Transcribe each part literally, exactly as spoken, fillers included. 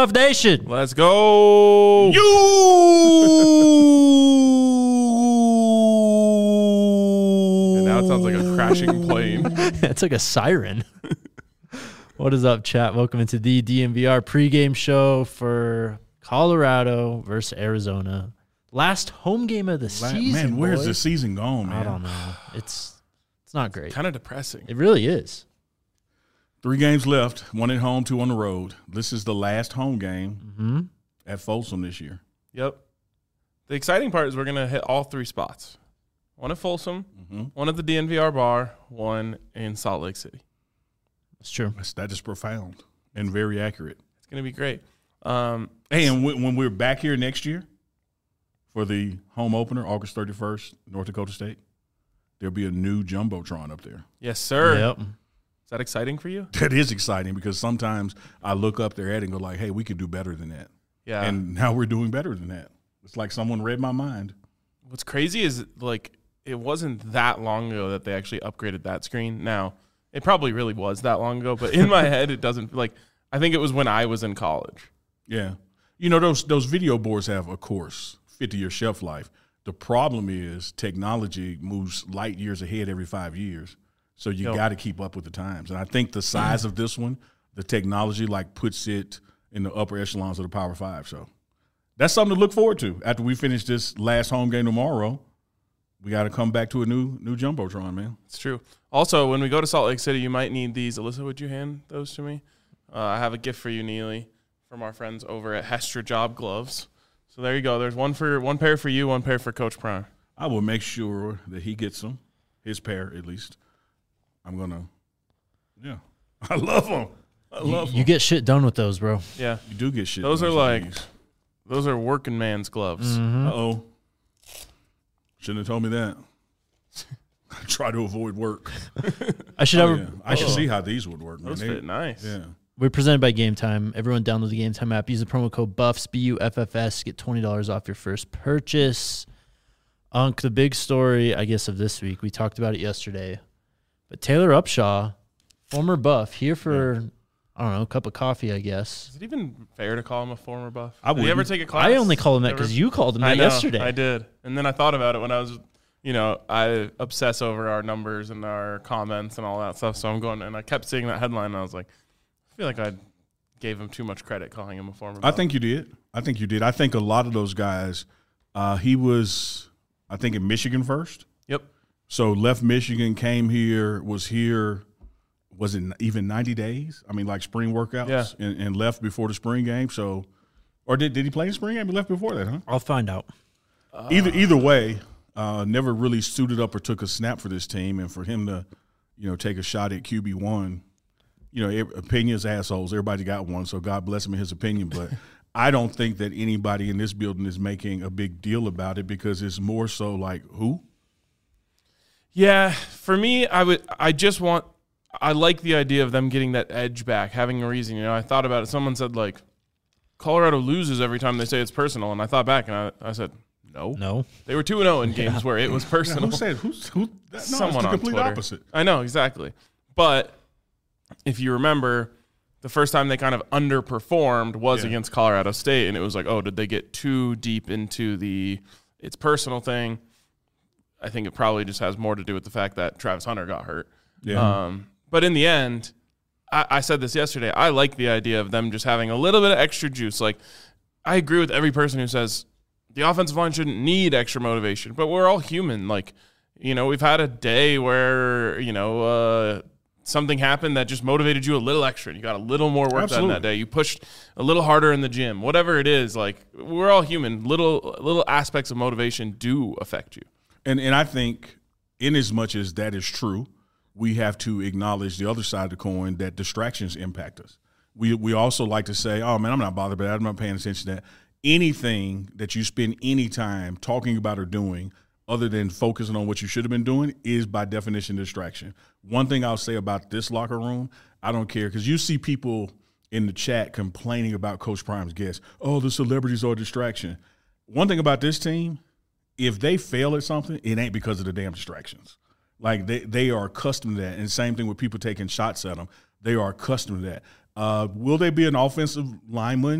Buff Nation. Let's go. You. And now it sounds like a crashing plane. It's like a siren. What is up, chat? Welcome into the D M V R pregame show for Colorado versus Arizona. Last home game of the season. Man, where's boys. the season gone, man? I don't know. It's it's not great. Kind of depressing. It really is. Three games left, one at home, two on the road. This is the last home game Mm-hmm. at Folsom this year. Yep. The exciting part is we're going to hit all three spots. One at Folsom, Mm-hmm. one at the D N V R bar, one in Salt Lake City. That's true. That's, that is profound and very accurate. It's going to be great. Um, Hey, and when, when we're back here next year for the home opener, August thirty-first, North Dakota State, there'll be a new Jumbotron up there. yes, sir. Yep. Is that exciting for you? That is exciting because sometimes I look up there at it and go like, hey, we could do better than that. Yeah. And now we're doing better than that. It's like someone read my mind. What's crazy is, like, it wasn't that long ago that they actually upgraded that screen. Now, it probably really was that long ago, but in my head, it doesn't. Like, I think it was when I was in college. Yeah. You know, those those video boards have, of course, fifty-year shelf life. The problem is technology moves light years ahead every five years. So you Yep. got to keep up with the times. And I think the size of this one, the technology, like, puts it in the upper echelons of the Power Five. So that's something to look forward to. After we finish this last home game tomorrow, we got to come back to a new new Jumbotron, man. It's true. Also, when we go to Salt Lake City, you might need these. Alyssa, would you hand those to me? Uh, I have a gift for you, Neely, from our friends over at Hestra Job Gloves. So there you go. There's one for one pair for you, one pair for Coach Prime. I will make sure that he gets them, his pair at least. I'm going to, yeah. I love them. I You, love you them. get shit done with those, bro. Yeah, You do get shit. those are done like with these. those are working man's gloves. Mhm. Uh-oh. Shouldn't have told me that. I try to avoid work. I should Oh, have. yeah. I I should should see how these would work, man. Those They- fit nice. Yeah. We're presented by Game Time. Everyone download the Game Time app. Use the promo code BUFFS, B U F F S. Get twenty dollars off your first purchase. Unc, the big story, I guess, of this week. We talked about it yesterday. But Taylor Upshaw, former Buff, here for, I don't know, a cup of coffee, I guess. Is it even fair to call him a former Buff? I Did you ever wouldn't. take a class? I only call him that Ever? because you called him I that know, yesterday. I did. And then I thought about it when I was, you know, I obsess over our numbers and our comments and all that stuff. So I'm going, and I kept seeing that headline, and I was like, I feel like I gave him too much credit calling him a former I Buff. think you did. I think you did. I think a lot of those guys, uh, he was, I think, in Michigan first. Yep. So left Michigan, came here, was here, was it even ninety days? I mean, like spring workouts, Yeah. and, and left before the spring game. So, or did did he play in spring game? He left before that, huh? I'll find out. Uh, Either either way, uh, never really suited up or took a snap for this team, and for him to, you know, take a shot at Q B one, you know, every, opinions assholes. Everybody got one, so God bless him in his opinion. But I don't think that anybody in this building is making a big deal about it because it's more so like who. Yeah, for me, I would. I just want. I like the idea of them getting that edge back, having a reason. You know, I thought about it. Someone said like, Colorado loses every time they say it's personal, and I thought back and I, I said, no, No. they were two and zero in games where it was Yeah, personal. who said who's who? That, no, Someone it's the on complete Twitter. opposite. I know exactly, but if you remember, the first time they kind of underperformed was Yeah. against Colorado State, and it was like, oh, did they get too deep into the it's personal thing? I think it probably just has more to do with the fact that Travis Hunter got hurt. Yeah. Um, but in the end, I, I said this yesterday. I like the idea of them just having a little bit of extra juice. Like, I agree with every person who says the offensive line shouldn't need extra motivation, but we're all human. Like, you know, we've had a day where, you know, uh, something happened that just motivated you a little extra. You got a little more work Absolutely. done that day. You pushed a little harder in the gym. Whatever it is, like, we're all human. Little little aspects of motivation do affect you. And and I think, in as much as that is true, we have to acknowledge the other side of the coin that distractions impact us. We we also like to say, oh, man, I'm not bothered by that. I'm not paying attention to that. Anything that you spend any time talking about or doing other than focusing on what you should have been doing is by definition distraction. One thing I'll say about this locker room, I don't care, because you see people in the chat complaining about Coach Prime's guests. Oh, the celebrities are a distraction. One thing about this team, if they fail at something, it ain't because of the damn distractions. Like, they, they are accustomed to that. And same thing with people taking shots at them. They are accustomed to that. Uh, will they be an offensive lineman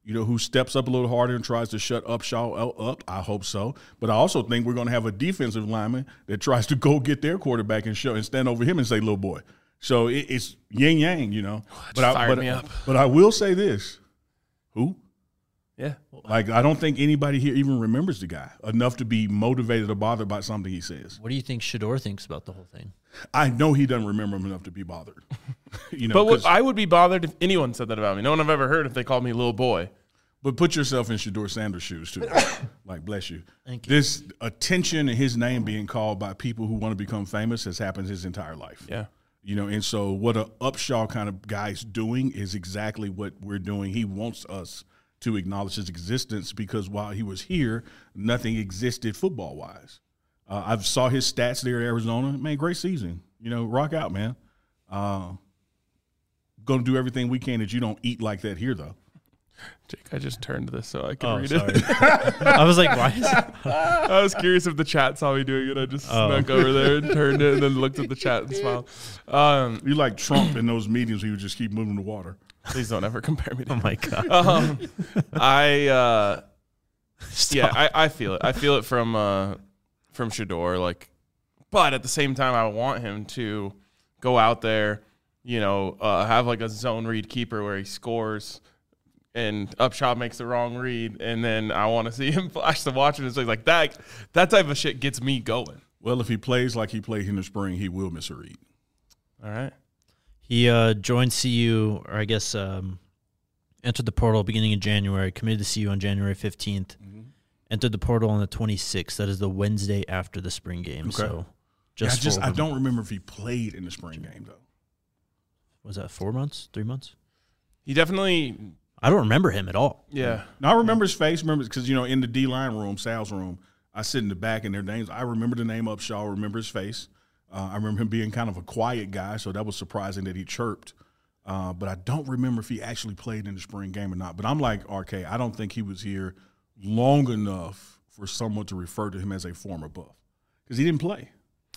you know, who steps up a little harder and tries to shut Upshaw up. I hope so. But I also think we're going to have a defensive lineman that tries to go get their quarterback and show and stand over him and say, little boy. So it, it's yin yang, you know. Oh, but I, fired but, me up. but I will say this. Who? Yeah. Like, I don't think anybody here even remembers the guy enough to be motivated or bothered by something he says. What do you think Shador thinks about the whole thing? I know he doesn't remember him enough to be bothered. you know, But what, I would be bothered if anyone said that about me. No one I've ever heard if they called me little boy. But put yourself in Shador Sanders' shoes, too. Like, bless you. Thank you. This attention and his name being called by people who want to become famous has happened his entire life. Yeah. You know, and so what a Upshaw kind of guy's doing is exactly what we're doing. He wants us to acknowledge his existence because while he was here, nothing existed football-wise. Uh, I saw his stats there at Arizona. Man, great season. You know, rock out, man. Uh, going to do everything we can that you don't eat like that here, though. Jake, I just turned this so I can Oh, read sorry. it. I was like, why is it? I was curious if the chat saw me doing it. I just Oh. snuck over there and turned it and then looked at the chat and smiled. Um, You like Trump in those meetings, he would just keep moving the water. please don't ever compare me to Oh, him. my God. Um, I uh, yeah, I, I feel it. I feel it from uh, from Shador. Like, but at the same time, I want him to go out there, you know, uh, have like a zone read keeper where he scores, and Upshaw makes the wrong read, and then I want to see him flash the watch and it's like that. That type of shit gets me going. Well, if he plays like he played in the spring, he will miss a read. All right. He uh, joined C U, or I guess um, entered the portal beginning in January, committed to C U on January fifteenth, Mm-hmm. entered the portal on the twenty-sixth. That is the Wednesday after the spring game. Okay. So Yeah, just, I just for I over- don't remember if he played in the spring game though. Was that four months, three months? He definitely, I don't remember him at all. yeah. Now I remember his face. Remember because you know in the D line room, Sal's room, I sit in the back and their names. I remember the name Upshaw. I remember his face. Uh, I remember him being kind of a quiet guy, so that was surprising that he chirped. Uh, but I don't remember if he actually played in the spring game or not. But I'm like R K. I don't think he was here long enough for someone to refer to him as a former Buff because he didn't play.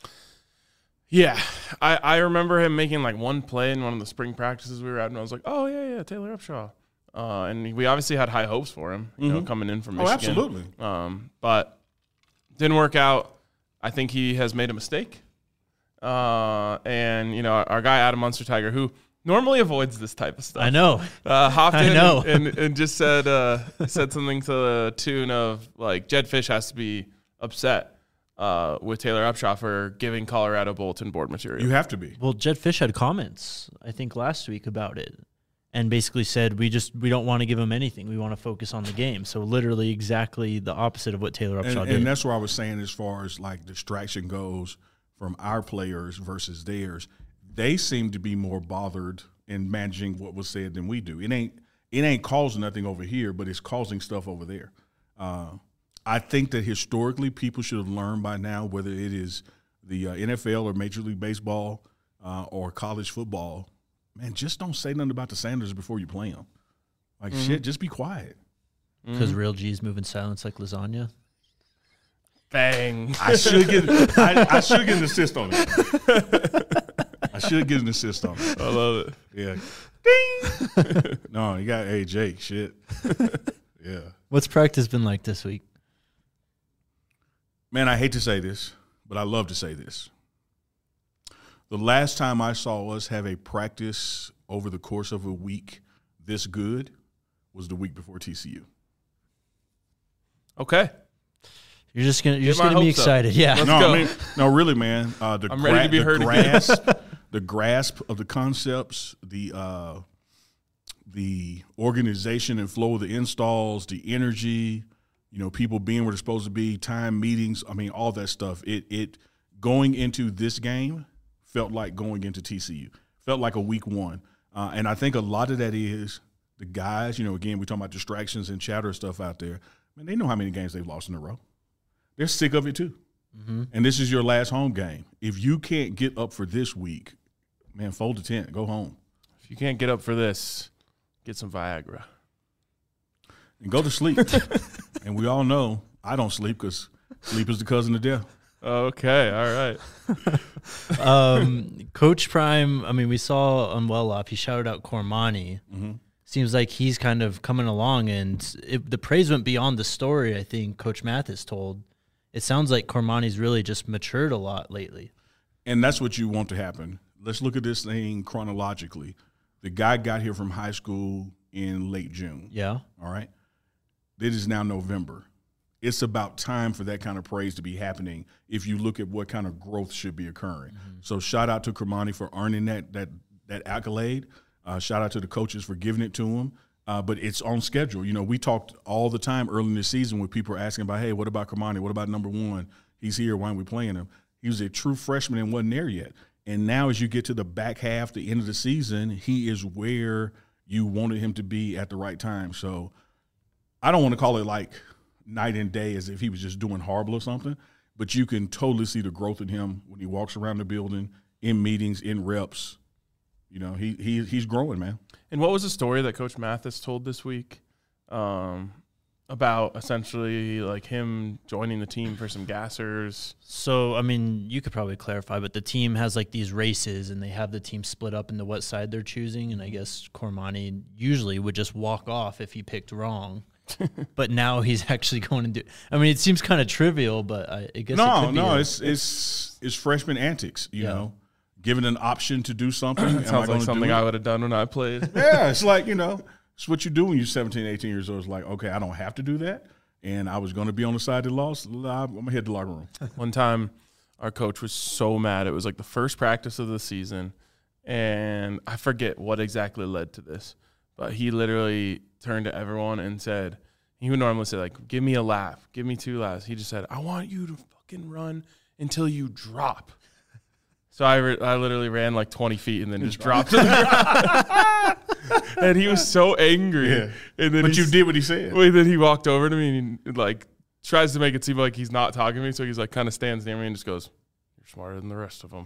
Yeah, I, I remember him making like one play in one of the spring practices we were at, and I was like, oh, yeah, yeah, Taylor Upshaw. Uh, and we obviously had high hopes for him, you know, Mhm. coming in from Oh, Michigan. absolutely. Um, but didn't work out. I think he has made a mistake. Uh, and, you know, our, our guy, Adam Munster Tiger, who normally avoids this type of stuff. I know. Uh, hopped I in know. And, and, and just said uh, said something to the tune of, like, Jed Fish has to be upset uh, with Taylor Upshaw for giving Colorado bulletin board material. You have to be. Well, Jed Fish had comments, I think, last week about it, and basically said we just we don't want to give him anything. We want to focus on the game. So literally exactly the opposite of what Taylor Upshaw And, did. and that's what I was saying as far as like distraction goes from our players versus theirs. They seem to be more bothered in managing what was said than we do. It ain't it ain't causing nothing over here, but it's causing stuff over there. Uh, I think that historically people should have learned by now, whether it is the uh, N F L or Major League Baseball uh, or college football, man, just don't say nothing about the Sanders before you play them. Like, Mm-hmm. shit, just be quiet. Because real G's move in silence like lasagna. Bang. I should get I, I should get an assist on it. I should get an assist on it. I love it. Yeah. Ding. No, you got hey Jake. Shit. Yeah. What's practice been like this week? Man, I hate to say this, but I love to say this. The last time I saw us have a practice over the course of a week this good was the week before T C U. Okay. You're just gonna you're Get just my gonna be hopes up. excited, yeah. Let's no, go. I mean, no, really, man. Uh, the I'm ready to be the heard again. grasp, the grasp of the concepts, the uh, the organization and flow of the installs, the energy, you know, people being where they're supposed to be, time meetings. I mean, all that stuff. It it going into this game felt like going into T C U. Felt like a week one, uh, and I think a lot of that is the guys. You know, again, we're talking about distractions and chatter stuff out there. Man, they know how many games they've lost in a row. They're sick of it too. Mm-hmm. And this is your last home game. If you can't get up for this week, man, fold the tent, go home. If you can't get up for this, get some Viagra. And go to sleep. And we all know I don't sleep because sleep is the cousin of death. Okay. All right. um, Coach Prime, I mean, we saw on Well Off, he shouted out Cormani, Mm-hmm. seems like he's kind of coming along, and it, the praise went beyond the story. I think Coach Mathis told. It sounds like Cormani's really just matured a lot lately. And that's what you want to happen. Let's look at this thing chronologically. The guy got here from high school in late June. Yeah. All right. It is now November. It's about time for that kind of praise to be happening if you look at what kind of growth should be occurring. Mm-hmm. So shout out to Cormani for earning that that that accolade. Uh, shout out to the coaches for giving it to him. Uh, but it's on schedule. You know, we talked all the time early in the season when people were asking about, hey, what about Cormani? What about number one? He's here. Why aren't we playing him? He was a true freshman and wasn't there yet. And now as you get to the back half, the end of the season, he is where you wanted him to be at the right time. So I don't want to call it like night and day as if he was just doing horrible or something, but you can totally see the growth in him when he walks around the building, in meetings, in reps. You know, he he he's growing, man. And what was the story that Coach Mathis told this week um, about essentially like him joining the team for some gassers? So, I mean, you could probably clarify, but the team has like these races and they have the team split up into what side they're choosing. And I guess Cormani usually would just walk off if he picked wrong. But now he's actually going to do – I mean, it seems kind of trivial, but I, I guess no, it could be No, a, it's, it's, it's freshman antics, you yeah. know. Given an option to do something. Am Sounds I like something do I would have done when I played. Yeah, it's like, you know, it's what you do when you're seventeen, eighteen years old. It's like, okay, I don't have to do that, and I was going to be on the side that lost. I'm going to hit the locker room. One time, our coach was so mad. It was like the first practice of the season, and I forget what exactly led to this, but he literally turned to everyone and said, he would normally say, like, give me a laugh, give me two laughs. He just said, I want you to fucking run until you drop. So I, re- I literally ran like twenty feet and then just dropped to the ground. And he was so angry. Yeah. And then But you s- did what he said. Wait, then he walked over to me and he, like tries to make it seem like he's not talking to me. So he's like kind of stands near me and just goes, "You're smarter than the rest of them."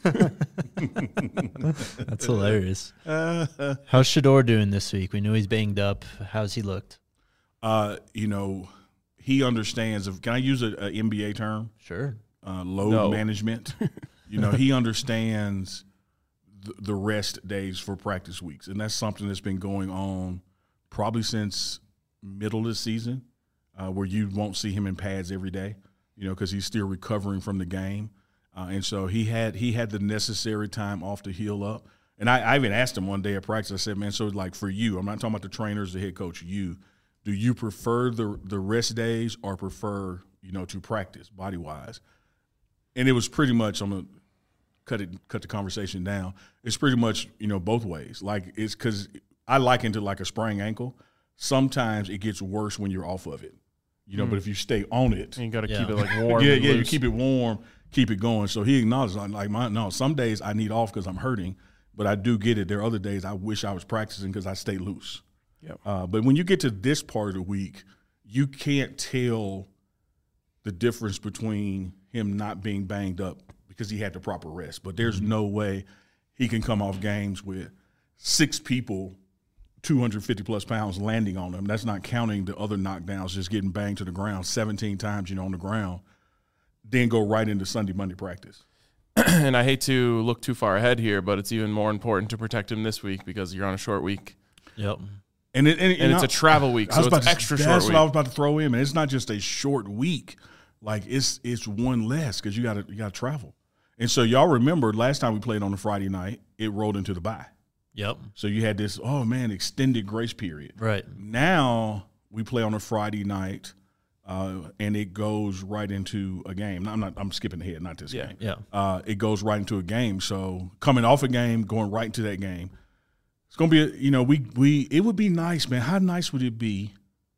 That's hilarious. Uh, How's Shedeur doing this week? We know he's banged up. How's he looked? Uh, you know, he understands. If, can I use an N B A term? Sure. Uh, load No. management. You know, he understands the, the rest days for practice weeks, and that's something that's been going on probably since middle of the season, uh, where you won't see him in pads every day, you know, because he's still recovering from the game. Uh, and so he had he had the necessary time off to heal up. And I, I even asked him one day at practice, I said, man, so like for you, I'm not talking about the trainers, the head coach, you, do you prefer the the rest days or prefer, you know, to practice body-wise? And it was pretty much, I'm going to cut it, cut the conversation down. It's pretty much, you know, both ways. Like, it's because I liken it to like a sprained ankle. Sometimes it gets worse when you're off of it, you know, mm. but if you stay on it. You got to Yeah. keep it like warm. yeah, and yeah, you loose. keep it warm, keep it going. So he acknowledged, like, my, no, some days I need off because I'm hurting, but I do get it. There are other days I wish I was practicing because I stay loose. Yep. Uh, but when you get to this part of the week, you can't tell the difference between him not being banged up because he had the proper rest. But there's no way he can come off games with six people, two hundred fifty plus pounds landing on him. That's not counting the other knockdowns, just getting banged to the ground seventeen times, you know, on the ground, then go right into Sunday, Monday practice. And I hate to look too far ahead here, but it's even more important to protect him this week because you're on a short week. Yep. And, it, and, And it's a travel week, so it's to, extra that's short That's week. what I was about to throw in, man. It's not just a short week. Like, it's it's one less because you got to you got to travel. And so y'all remember last time we played on a Friday night, it rolled into the bye. Yep. So you had this, oh, man, extended grace period. Right. Now we play on a Friday night, uh, and it goes right into a game. Now, I'm not. I'm skipping ahead, not this Yeah. game. Yeah. Uh, it goes right into a game. So coming off a game, going right into that game, it's gonna be. A, you know, we we. It would be nice, man. How nice would it be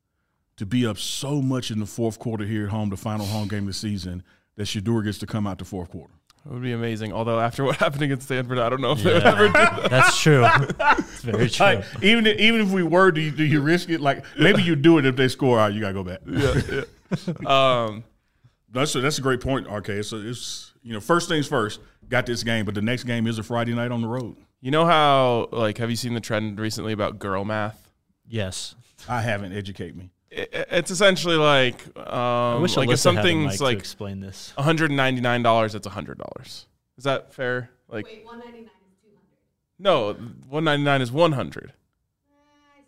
to be up so much in the fourth quarter here at home, the final home game of the season, that Shedeur gets to come out the fourth quarter? It would be amazing. Although after what happened against Stanford, I don't know if they would Yeah. ever do that. That's true. It's very true. Like, even if, even if we were, do you, do you risk it? Like, maybe you do it if they score. All right, you gotta go back. Yeah, yeah. Um, That's a, that's a great point, R K. So it's, you know, first things first, got this game, but the next game is a Friday night on the road. you know how, like, have you seen the trend recently about girl math? Yes. I haven't. Educate me. It, it's essentially like, um, I wish like Alyssa if something's had a mic to like explain this. one hundred ninety-nine dollars, it's one hundred dollars. Is that fair? Like, Wait, one ninety-nine is two hundred. no, one ninety-nine is one hundred. Uh, I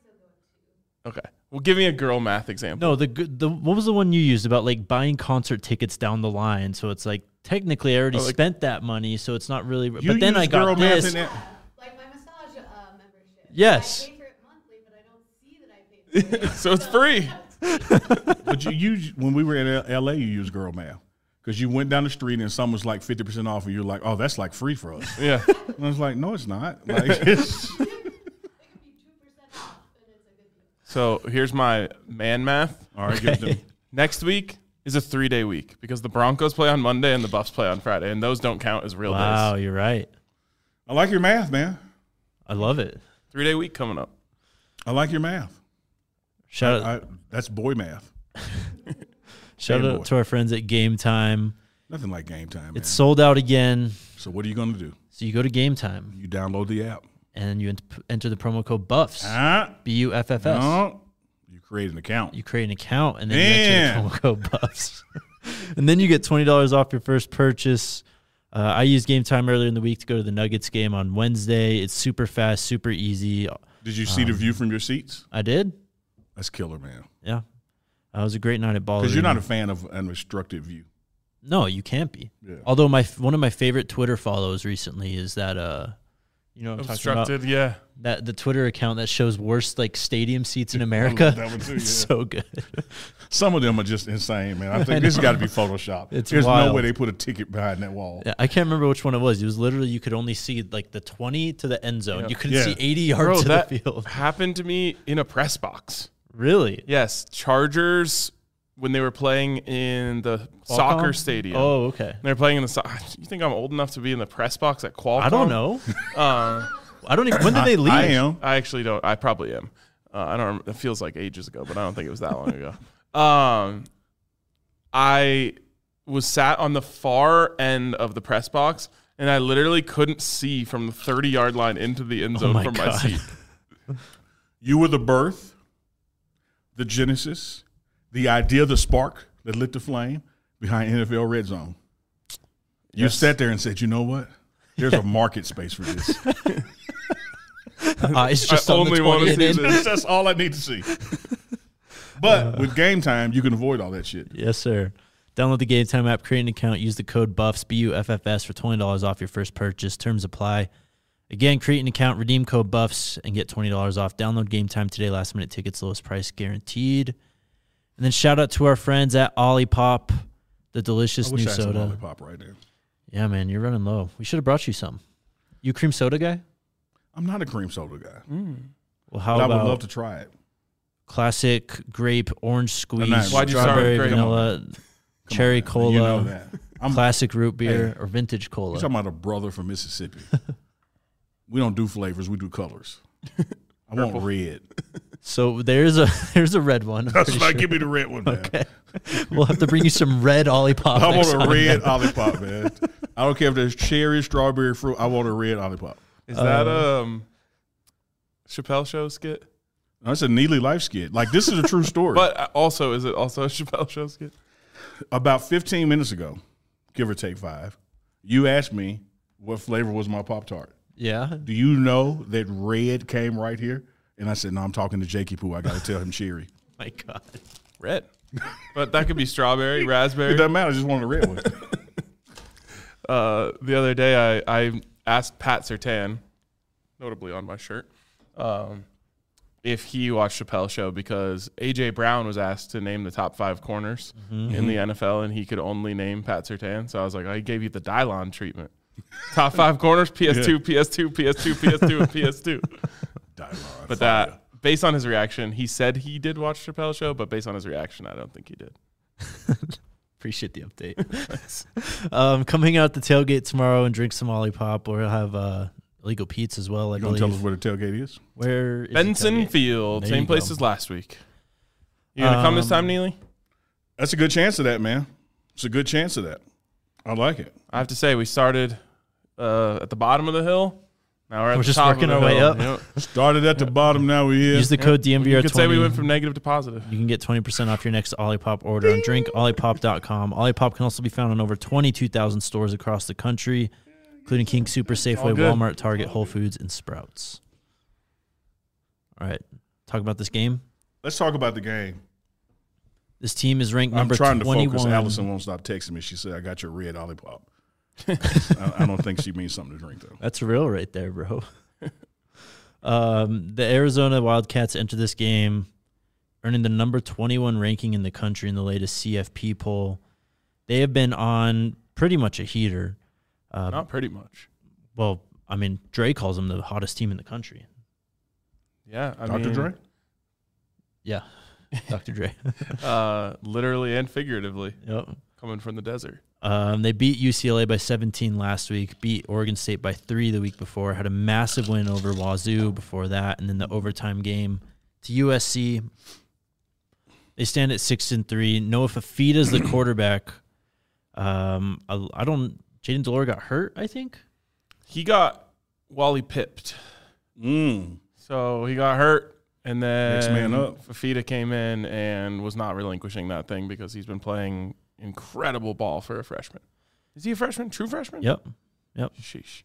Okay. Well, give me a girl math example. No, the good- the what was the one you used about like buying concert tickets down the line? So it's like technically I already Oh, like- spent that money, so it's not really. You but then I use girl got math this. in that? Like my massage uh, membership. Yes. I pay for it monthly, but I don't see that I paid for it. So it's free. But you use when we were in L A, you used girl math because you went down the street and some was like fifty percent off, and you're like, "Oh, that's like free for us." Yeah. And I was like, "No, it's not." Like, it's, It could be two percent off, and it's a good deal. So here's my man math. all right, give it to me. Next week is a three day week because the Broncos play on Monday and the Buffs play on Friday, and those don't count as real Wow, days. you're right. I like your math, man. I love it. Three day week coming up. I like your math. Shout out, I, that's boy math. shout Hey, out boy. to our friends at Game Time. Nothing like game time, man. It's sold out again. So what are you going to do? So you go to Game Time You download the app. and you ent- enter the promo code BUFFS, Huh? B U F F S. No. You create an account. You create an account and then you Man. enter the promo code BUFFS. And then you get twenty dollars off your first purchase. Uh, I used Game Time earlier in the week to go to the Nuggets game on Wednesday. It's super fast, super easy. Did you see the view from your seats? I did. That's killer, man. Yeah. Uh, it was a great night at Ball Because you're Arena. not a fan of an obstructed view. No, you can't be. Yeah. Although my one of my favorite Twitter follows recently is that uh, you know what I'm talking about? Obstructed, yeah. That the Twitter account that shows worst like stadium seats in America. that one too, It's yeah. so good. Some of them are just insane, man. I I think this has know. got to be Photoshopped. It's There's wild. no way they put a ticket behind that wall. Yeah, I can't remember which one it was. It was literally you could only see like the twenty to the end zone. Yeah. You couldn't Yeah. see eighty Bro, yards to that the field. happened to me in a press box. Really? Yes, Chargers when they were playing in the soccer Qualcomm? stadium. Oh, okay. They were playing in the. So- you think I'm old enough to be in the press box at Qualcomm? I don't know. Uh, I don't even. When did they leave? I am. I actually don't. I probably am. Uh, I don't. Remember, it feels like ages ago, but I don't think it was that long ago. Um, I was sat on the far end of the press box, and I literally couldn't see from the thirty yard line into the end zone my from my God. seat. You were the birth, the genesis, the idea, the spark that lit the flame behind N F L Red Zone. You Yes. sat there and said, you know what? There's a market space for this. Eyes just I on only the wanna twenty see and in. this. That's all I need to see. But with game time, you can avoid all that shit. Yes, sir. Download the Game Time app, create an account, use the code BUFFS, B U F F S for twenty dollars off your first purchase. Terms apply. Again, create an account, redeem code BUFFS, and get twenty dollars off. Download Game Time today. Last minute tickets, lowest price guaranteed. And then shout out to our friends at Olipop, the delicious I wish new I had some soda. lollipop right there. Yeah, man, you're running low. We should have brought you some. You cream soda guy? I'm not a cream soda guy, Well, how but I about would love to try it. classic grape orange squeeze, not- Why'd you start with strawberry grape? vanilla, Come cherry on, man. cola, You know that. I'm classic root beer, Hey, or vintage You're cola? talking about a brother from Mississippi. We don't do flavors. We do colors. I want red. So there's a there's a red one. I'm That's pretty why sure. give me the red one, man. Okay. We'll have to bring you some red Olipop. I want next a time, red man. Olipop, man. I don't care if there's cherry, strawberry, fruit. I want a red Olipop. Is that Uh, um Chappelle Show skit? That's a Neely life skit. Like, this is a true story. But also, is it also a Chappelle Show skit? About fifteen minutes ago, give or take five, you asked me what flavor was my Pop-Tart. Yeah. Do you know that red came right here? And I said, no, I'm talking to Jakey Poo. I got to tell him cherry. My God. Red. But that could be strawberry, It raspberry. doesn't matter. I just wanted a red one. Uh, the other day, I, I asked Pat Surtain, notably on my shirt, um, if he watched Chappelle Show because A J Brown was asked to name the top five corners in the N F L, and he could only name Pat Surtain. So I was like, I gave you the Dylon treatment. Top five corners, P S two, P S two, P S two, P S two, and P S two. Dylon, But fire. that, based on his reaction, he said he did watch Chappelle Show, but based on his reaction, I don't think he did. Appreciate the update. um, coming out the tailgate tomorrow and drink some Olipop. We'll have uh, illegal Pete's as well. I You going to believe. tell us where the tailgate is? Where is the Benson tailgate? Field, There same you place go. as last week. You gonna come this time, Um, Neely? That's a good chance of that, man. It's a good chance of that. I like it. I have to say, we started uh, at the bottom of the hill. Now we're at We're the just top working of the our way hill. up. Yep. Started at the bottom, now we're here. Use the code D M V R You twenty. could say we went from negative to positive. You can get twenty percent off your next Olipop order on drink olipop dot com. Olipop can also be found in over twenty-two thousand stores across the country, including King Super, Safeway, good. Walmart, Target, Whole Foods, and Sprouts. All right. Talk about this game. Let's talk about the game. This team is ranked I'm number trying to twenty-one. focus. Allison won't stop texting me. She said, I got your red Olipop. I, I don't think she means something to drink, though. That's real right there, bro. um, the Arizona Wildcats enter this game earning the number twenty-one ranking in the country in the latest C F P poll. They have been on pretty much a heater. Uh, Not pretty much. well, I mean, Dre calls them the hottest team in the country. Yeah, I Doctor mean, Dre? Yeah, Doctor Dre. uh, literally and figuratively, Yep. coming from the desert. Um, they beat U C L A by seventeen last week, beat Oregon State by three the week before, had a massive win over Wazoo before that, and then the overtime game to U S C. They stand at six and three. Noah Fafita's the quarterback. Um, I, I don't. Jaden Delore got hurt, I think. He got Wally pipped. Mm. So he got hurt, and then Next man up. Fafita came in and was not relinquishing that thing because he's been playing incredible ball for a freshman. Is he a freshman? True freshman? Yep. Yep. Sheesh.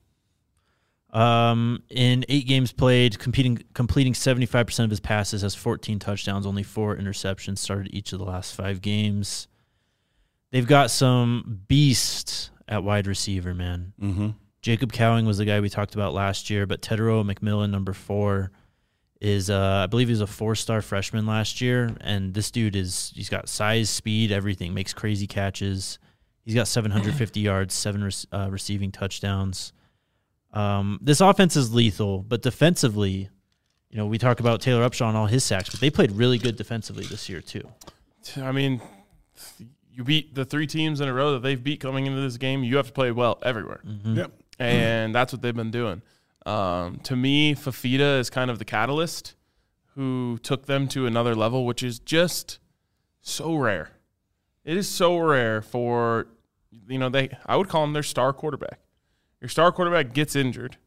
Um, in eight games played, competing, completing seventy-five percent of his passes, has fourteen touchdowns, only four interceptions, started each of the last five games. They've got some beasts at wide receiver, man. Mm-hmm. Jacob Cowing was the guy we talked about last year, but Tedero McMillan, number four, is, uh, I believe he was a four-star freshman last year, and this dude is, he's got size, speed, everything, makes crazy catches. He's got seven hundred fifty yards, seven re- uh, receiving touchdowns. Um, this offense is lethal, but defensively, you know, we talk about Taylor Upshaw and all his sacks, but they played really good defensively this year too. I mean, you beat the three teams in a row that they've beat coming into this game. You have to play well everywhere. Mm-hmm. Yep. And that's what they've been doing. Um, to me, Fafita is kind of the catalyst who took them to another level, which is just so rare. It is so rare for, you know, they. I would call him their star quarterback. Your star quarterback gets injured,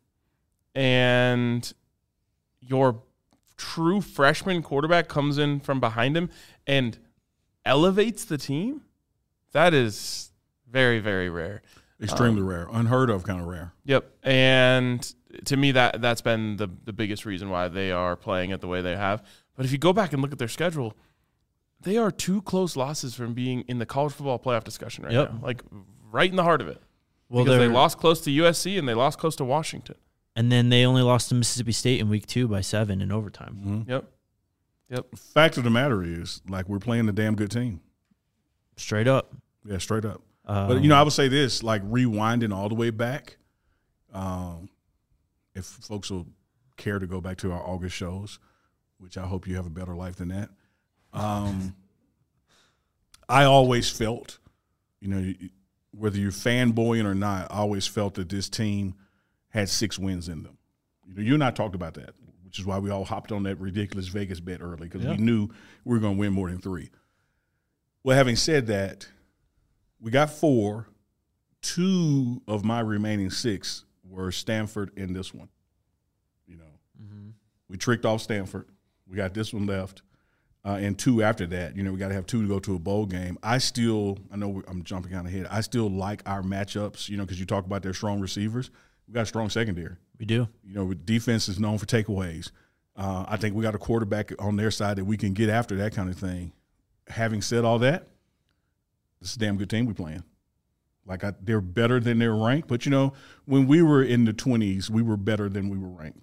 and your true freshman quarterback comes in from behind him and elevates the team. That is very, very rare. Extremely Um, rare. Unheard of kind of rare. Yep. And to me, that, that's been the, the biggest reason why they are playing it the way they have. But if you go back and look at their schedule, they are two close losses from being in the college football playoff discussion right Yep. now. Like, right in the heart of it. Well, because they they're- lost close to U S C and they lost close to Washington. And then they only lost to Mississippi State in week two by seven in overtime. Mm-hmm. Yep. Yep. Fact of the matter is, like, we're playing a damn good team. Straight up. Yeah, straight up. Um, But, you know, I would say this, like, rewinding all the way back, um, if folks will care to go back to our August shows, which I hope you have a better life than that, um, I always felt, you know, whether you're fanboying or not, I always felt that this team had six wins in them. You know, you and I talked about that, which is why we all hopped on that ridiculous Vegas bet early, because Yeah. we knew we were going to win more than three. Well, having said that, we got four. Two of my remaining six were Stanford and this one. You know, mhm. we tricked off Stanford. We got this one left. Uh, and two after that. You know, we got to have two to go to a bowl game. I still, I know we- I'm jumping kind of ahead. I still like our matchups, you know, because you talk about their strong receivers. We got a strong secondary. We do. You know, defense is known for takeaways. Uh, I think we got a quarterback on their side that we can get after that kind of thing. Having said all that, this is a damn good team we're playing. Like, I, they're better than they're ranked. But, you know, when we were in the twenties, we were better than we were ranked.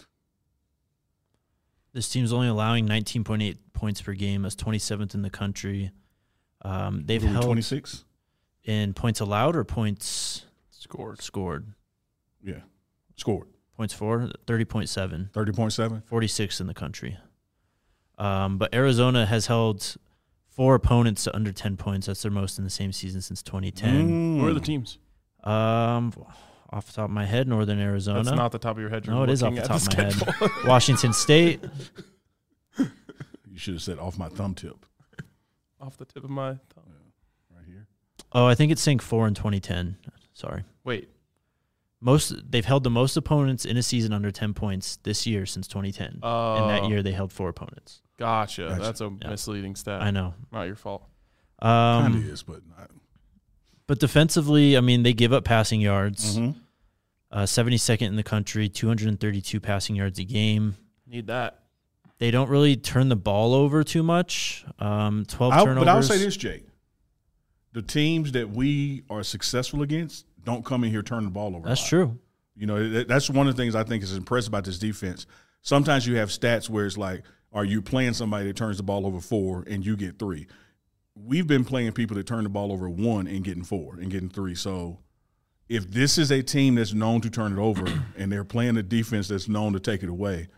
This team's only allowing nineteen point eight points per game. That's twenty-seventh in the country. Um, they've Were we held twenty-six? in points allowed or points Scored. scored. Yeah. Scored. Points for thirty point seven. thirty point seven? forty-sixth in the country. Um, but Arizona has held four opponents to under ten points. That's their most in the same season since twenty ten. Mm. Who are the teams? Um, off the top of my head, Northern Arizona. That's not the top of your head. You're No, it is off looking the at top of my head. schedule. Washington State. You should have said off my thumb tip. Off the tip of my tongue. Right here. Oh, I think it sank four in twenty ten. Sorry. Wait. Most they've held the most opponents in a season under ten points this year since twenty ten. Uh, and that year they held four opponents. Gotcha. Gotcha. That's a Yeah. misleading stat. I know. Not your fault. Um, Kind of is, but not. But defensively, I mean, they give up passing yards. Mm-hmm. Uh, seventy-second in the country, two hundred thirty-two passing yards a game. Need that. They don't really turn the ball over too much. Um, twelve I'll, turnovers. but I'll say this, Jake. The teams that we are successful against don't come in here turning the ball over. That's a lot. true. You know, that, that's one of the things I think is impressive about this defense. Sometimes you have stats where it's like, are you playing somebody that turns the ball over four and you get three? We've been playing people that turn the ball over one and getting four and getting three. So if this is a team that's known to turn it over and they're playing a defense that's known to take it away,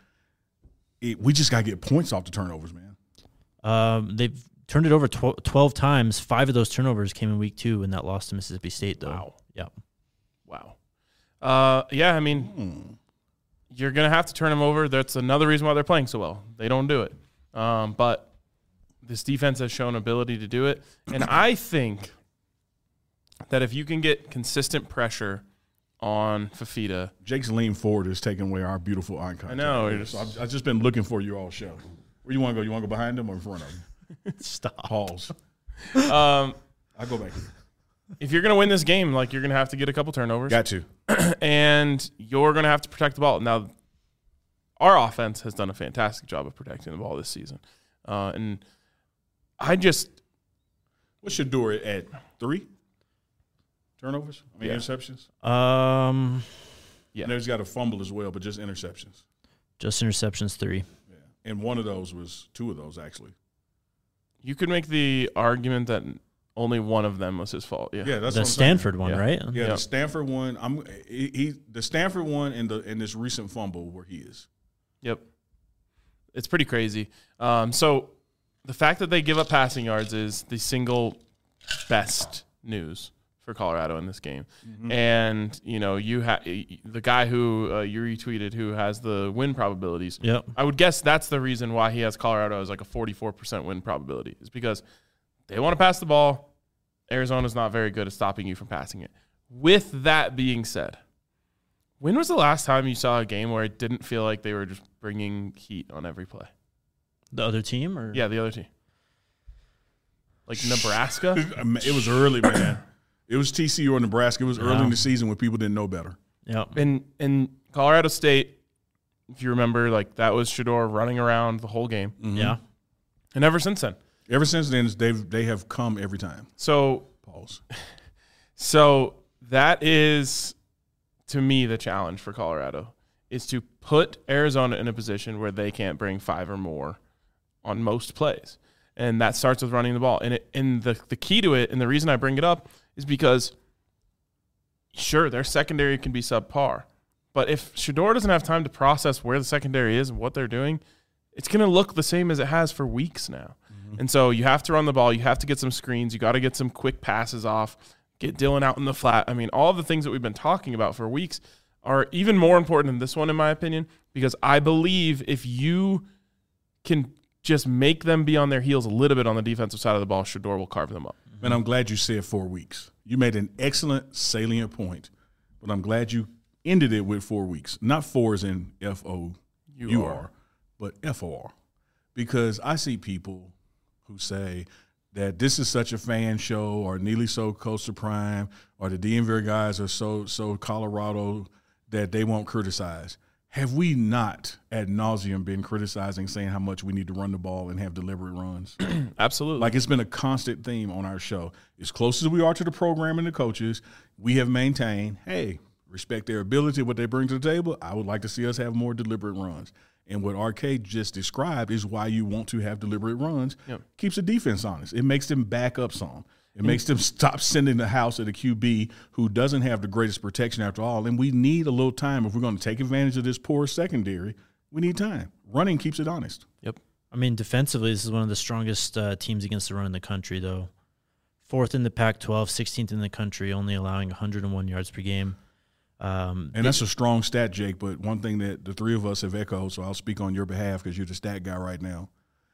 it, we just got to get points off the turnovers, man. Um, they've turned it over tw- twelve times. Five of those turnovers came in week two in that loss to Mississippi State, though. Wow. Yeah. Wow. Uh, yeah, I mean, Hmm. you're going to have to turn them over. That's another reason why they're playing so well. They don't do it. Um, but this defense has shown ability to do it. And I think that if you can get consistent pressure on Fafita. Jake's lean forward is taking away our beautiful eye contact. I know. So I've, I've just been looking for you all show. Where you want to go? You want to go behind him or in front of him? Stop. Pause. Um, I'll go back here. if you're going to win this game, like you're going to have to get a couple turnovers. Got to. And you're going to have to protect the ball. Now, our offense has done a fantastic job of protecting the ball this season. Uh, and I just – What's Shedeur at three turnovers? I mean, Yeah. interceptions? Um, Yeah. I know he's got a fumble as well, but just interceptions. just interceptions three. Yeah. And one of those was two of those, actually. you could make the argument that only one of them was his fault. Yeah. Yeah, that's The what I'm Stanford saying. one, Yeah. right? Yeah, Yep. the Stanford one. I'm he, he the Stanford one and the and this recent fumble where he is. Yep. It's pretty crazy. Um, so the fact that they give up passing yards is the single best news for Colorado in this game. Mm-hmm. And, you know, you ha- the guy who uh, you retweeted who has the win probabilities, Yep. I would guess that's the reason why he has Colorado as like a forty-four percent win probability is because they want to pass the ball. Arizona's not very good at stopping you from passing it. With that being said, when was the last time you saw a game where it didn't feel like they were just bringing heat on every play? The other team, or Yeah, the other team. Like Nebraska? It was early, man. It was T C U or Nebraska. It was early Wow. in the season when people didn't know better. Yep. In in Colorado State, if you remember, like that was Shedeur running around the whole game. Yeah. And ever since then. Ever since then, they've they have come every time. So Pause. So that is, to me, the challenge for Colorado is to put Arizona in a position where they can't bring five or more on most plays. And that starts with running the ball. And it, and the, the key to it, and the reason I bring it up, is because, sure, their secondary can be subpar. But if Shedeur doesn't have time to process where the secondary is and what they're doing, it's going to look the same as it has for weeks now. Mm-hmm. And so you have to run the ball. You have to get some screens. You got to get some quick passes off. Get Dylan out in the flat. I mean, all of the things that we've been talking about for weeks are even more important than this one, in my opinion, because I believe if you can just make them be on their heels a little bit on the defensive side of the ball, Shedeur will carve them up. And I'm glad you said four weeks. You made an excellent salient point, but I'm glad you ended it with four weeks. Not four as in F O U R, but F O R. Because I see people who say that this is such a fan show, or Neely so Coastal Prime, or the D M V guys are so so Colorado that they won't criticize. Have we not ad nauseum been criticizing, saying how much we need to run the ball and have deliberate runs? Absolutely. Like, it's been a constant theme on our show. As close as we are to the program and the coaches, we have maintained, hey, respect their ability, what they bring to the table. I would like to see us have more deliberate runs. And what R K just described is why you want to have deliberate runs. Yep. Keeps the defense honest. It makes them back up some. It makes them stop sending the house at a Q B who doesn't have the greatest protection after all. And we need a little time. If we're going to take advantage of this poor secondary, we need time. Running keeps it honest. Yep. I mean, defensively, this is one of the strongest uh, teams against the run in the country, though. Fourth in the Pac twelve, sixteenth in the country, only allowing one hundred one yards per game. Um, And that's a strong stat, Jake, but one thing that the three of us have echoed, so I'll speak on your behalf because you're the stat guy right now.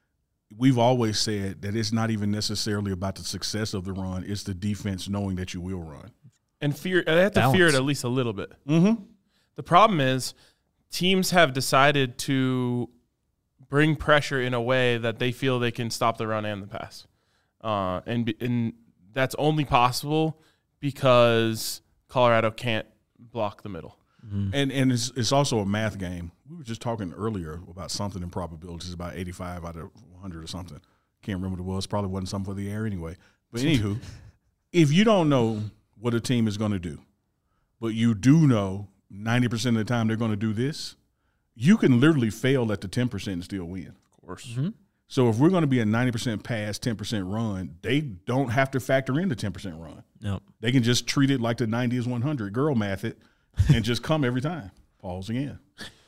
We've always said that it's not even necessarily about the success of the run. It's the defense knowing that you will run. And fear, they have to Balance. fear it at least a little bit. Mm-hmm. The problem is teams have decided to bring pressure in a way that they feel they can stop the run and the pass. Uh, and, and that's only possible because Colorado can't block the middle. Mm-hmm. And and it's it's also a math game. We were just talking earlier about something in probabilities, about eighty-five out of one hundred or something. Can't remember what it was. Probably wasn't something for the air anyway. But anywho, if you don't know what a team is going to do, but you do know ninety percent of the time they're going to do this, you can literally fail at the ten percent and still win. Of course. Mm-hmm. So if we're going to be a ninety percent pass, ten percent run, they don't have to factor in the ten percent run. Nope. They can just treat it like the ninety is one hundred, girl math it, and just come every time. Pause again.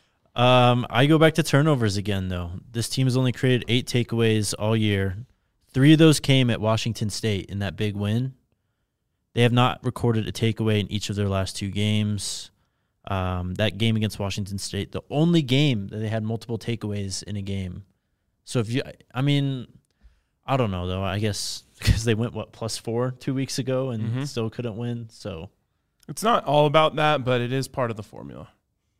Um, I go back to turnovers again, though. This team has only created eight takeaways all year. Three of those came at Washington State in that big win. They have not recorded a takeaway in each of their last two games. Um, that game against Washington State, the only game that they had multiple takeaways in a game. So if you, I mean, I don't know, though. I guess because they went, what, plus four two weeks ago and Mm-hmm. still couldn't win. So It's not all about that, but it is part of the formula.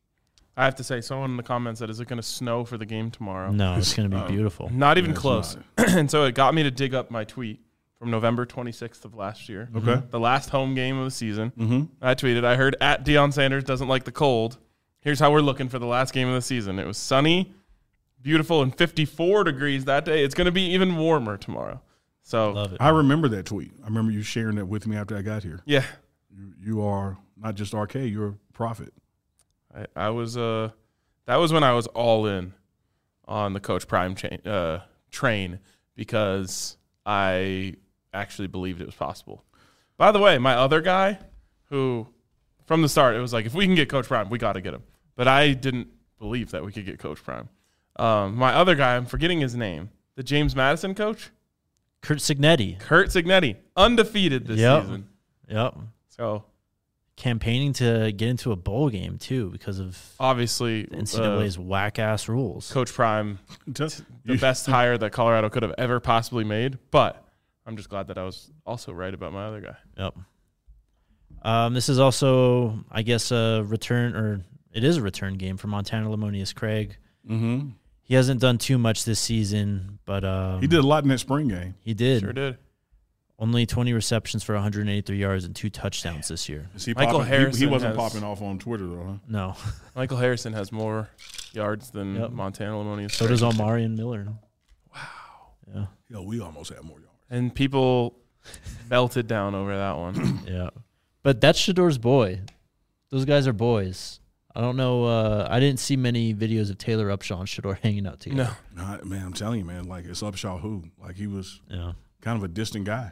I have to say, someone in the comments said, is it going to snow for the game tomorrow? no, it's going to be Oh. beautiful. Not even Yeah, it's close. not. And so it got me to dig up my tweet from November twenty-sixth of last year. Okay. The last home game of the season. Mm-hmm. I tweeted, I heard at Deion Sanders doesn't like the cold. Here's how we're looking for the last game of the season. It was sunny, beautiful, and fifty-four degrees that day. It's going to be even warmer tomorrow. So, Love it. I remember that tweet. I remember you sharing that with me after I got here. yeah, You, you are not just R K, you're a prophet. I, I was uh, that was when I was all in on the Coach Prime chain, uh, train because I actually believed it was possible. By the way, my other guy who from the start, it was like, if we can get Coach Prime, we got to get him. But I didn't believe that we could get Coach Prime. Um, my other guy, I'm forgetting his name, the James Madison coach, Kurt Signetti. Kurt Signetti, undefeated this Yep. season. Yep. So Campaigning to get into a bowl game, too, because of obviously, the N C double A's uh, whack-ass rules. Coach Prime, Just- the you- best hire that Colorado could have ever possibly made. But I'm just glad that I was also right about my other guy. Yep. Um, this is also, I guess, a return, or it is a return game for Montana Lamonius Craig. Mhm. He hasn't done too much this season, but um, He did a lot in that spring game. He did. Sure did. Only twenty receptions for one hundred eighty-three yards and two touchdowns this year. Is he Michael popping? He- He, Harrison wasn't has- popping off on Twitter, though, huh? No. Michael Harrison has more yards than Yep. Montana Lamonius. So does Omari and Miller. Wow. Yeah. Yo, we almost had more yards. And people melted down over that one. Yeah. But that's Shador's boy. Those guys are boys. I don't know. Uh, I didn't see many videos of Taylor Upshaw and Shador hanging out together. No. Nah, man, I'm telling you, man, like it's Upshaw who? Like he was Yeah. kind of a distant guy.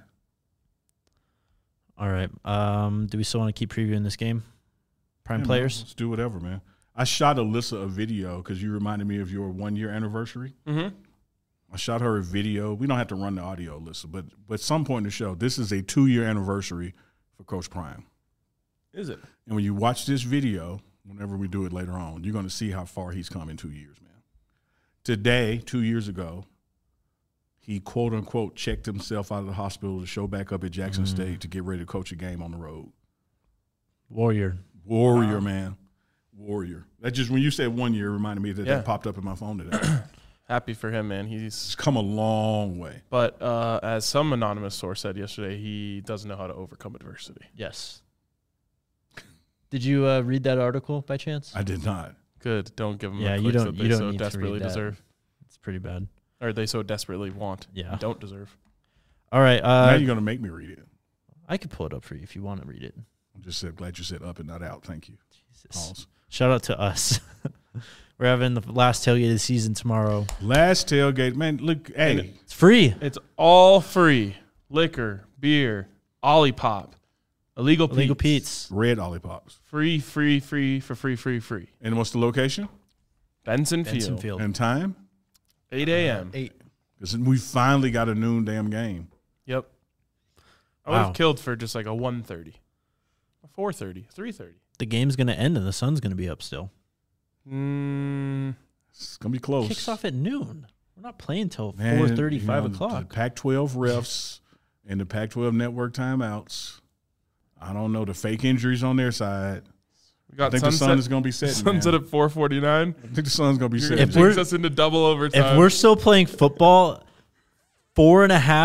All right. Um, do we still want to keep previewing this game? Prime Yeah, man, players? let's do whatever, man. I shot Alyssa a video because you reminded me of your one year anniversary. Mm-hmm. I shot her a video. We don't have to run the audio, Alyssa, but but at some point in the show, this is a two year anniversary for Coach Prime. Is it? And when you watch this video, whenever we do it later on, you're going to see how far he's come in two years, man. Today, two years ago, he quote unquote checked himself out of the hospital to show back up at Jackson Mm. State to get ready to coach a game on the road. Warrior. Warrior, Wow. man. Warrior. That just when you said one year, it reminded me that Yeah. that popped up in my phone today. Happy for him, man. He's It's come a long way. but uh, as some anonymous source said yesterday, he doesn't know how to overcome adversity. Yes. Did you uh, read that article by chance? I did not. Good. Don't give him Yeah, the you clicks don't- that you they don't so need to desperately read that. deserve, It's pretty bad. or they so desperately want. Yeah. and don't deserve. All right. now Uh, you're going to make me read it. I could pull it up for you if you want to read it. I'm just said, glad you said up and not out. Thank you. Jesus. Pause. Shout out to us. We're having the last tailgate of the season tomorrow. Last tailgate. Man, look, hey. It's free. It's all free. Liquor, beer, Olipop, illegal Pete's. Illegal Pete's. Red Ollipops. Free, free, free, for free, free, free. And what's the location Benson, Benson Field. Field. and time? eight a.m. Eight. Because we finally got a noon damn game. Yep. I would have Wow. killed for just like a one thirty, a four thirty, three thirty. The game's going to end and the sun's going to be up still. Mm, It's going to be close. Kicks off at noon. We're not playing till Man, four thirty, you five know, The o'clock. Pac twelve refs and the Pac twelve network timeouts. I don't know. The fake injuries on their side. we I got think the sunset, sun is going to be setting. sunset man. at four forty-nine. I think the sun's going to be You're setting. going If to we're- takes us into double overtime. If we're still playing football, four and a half,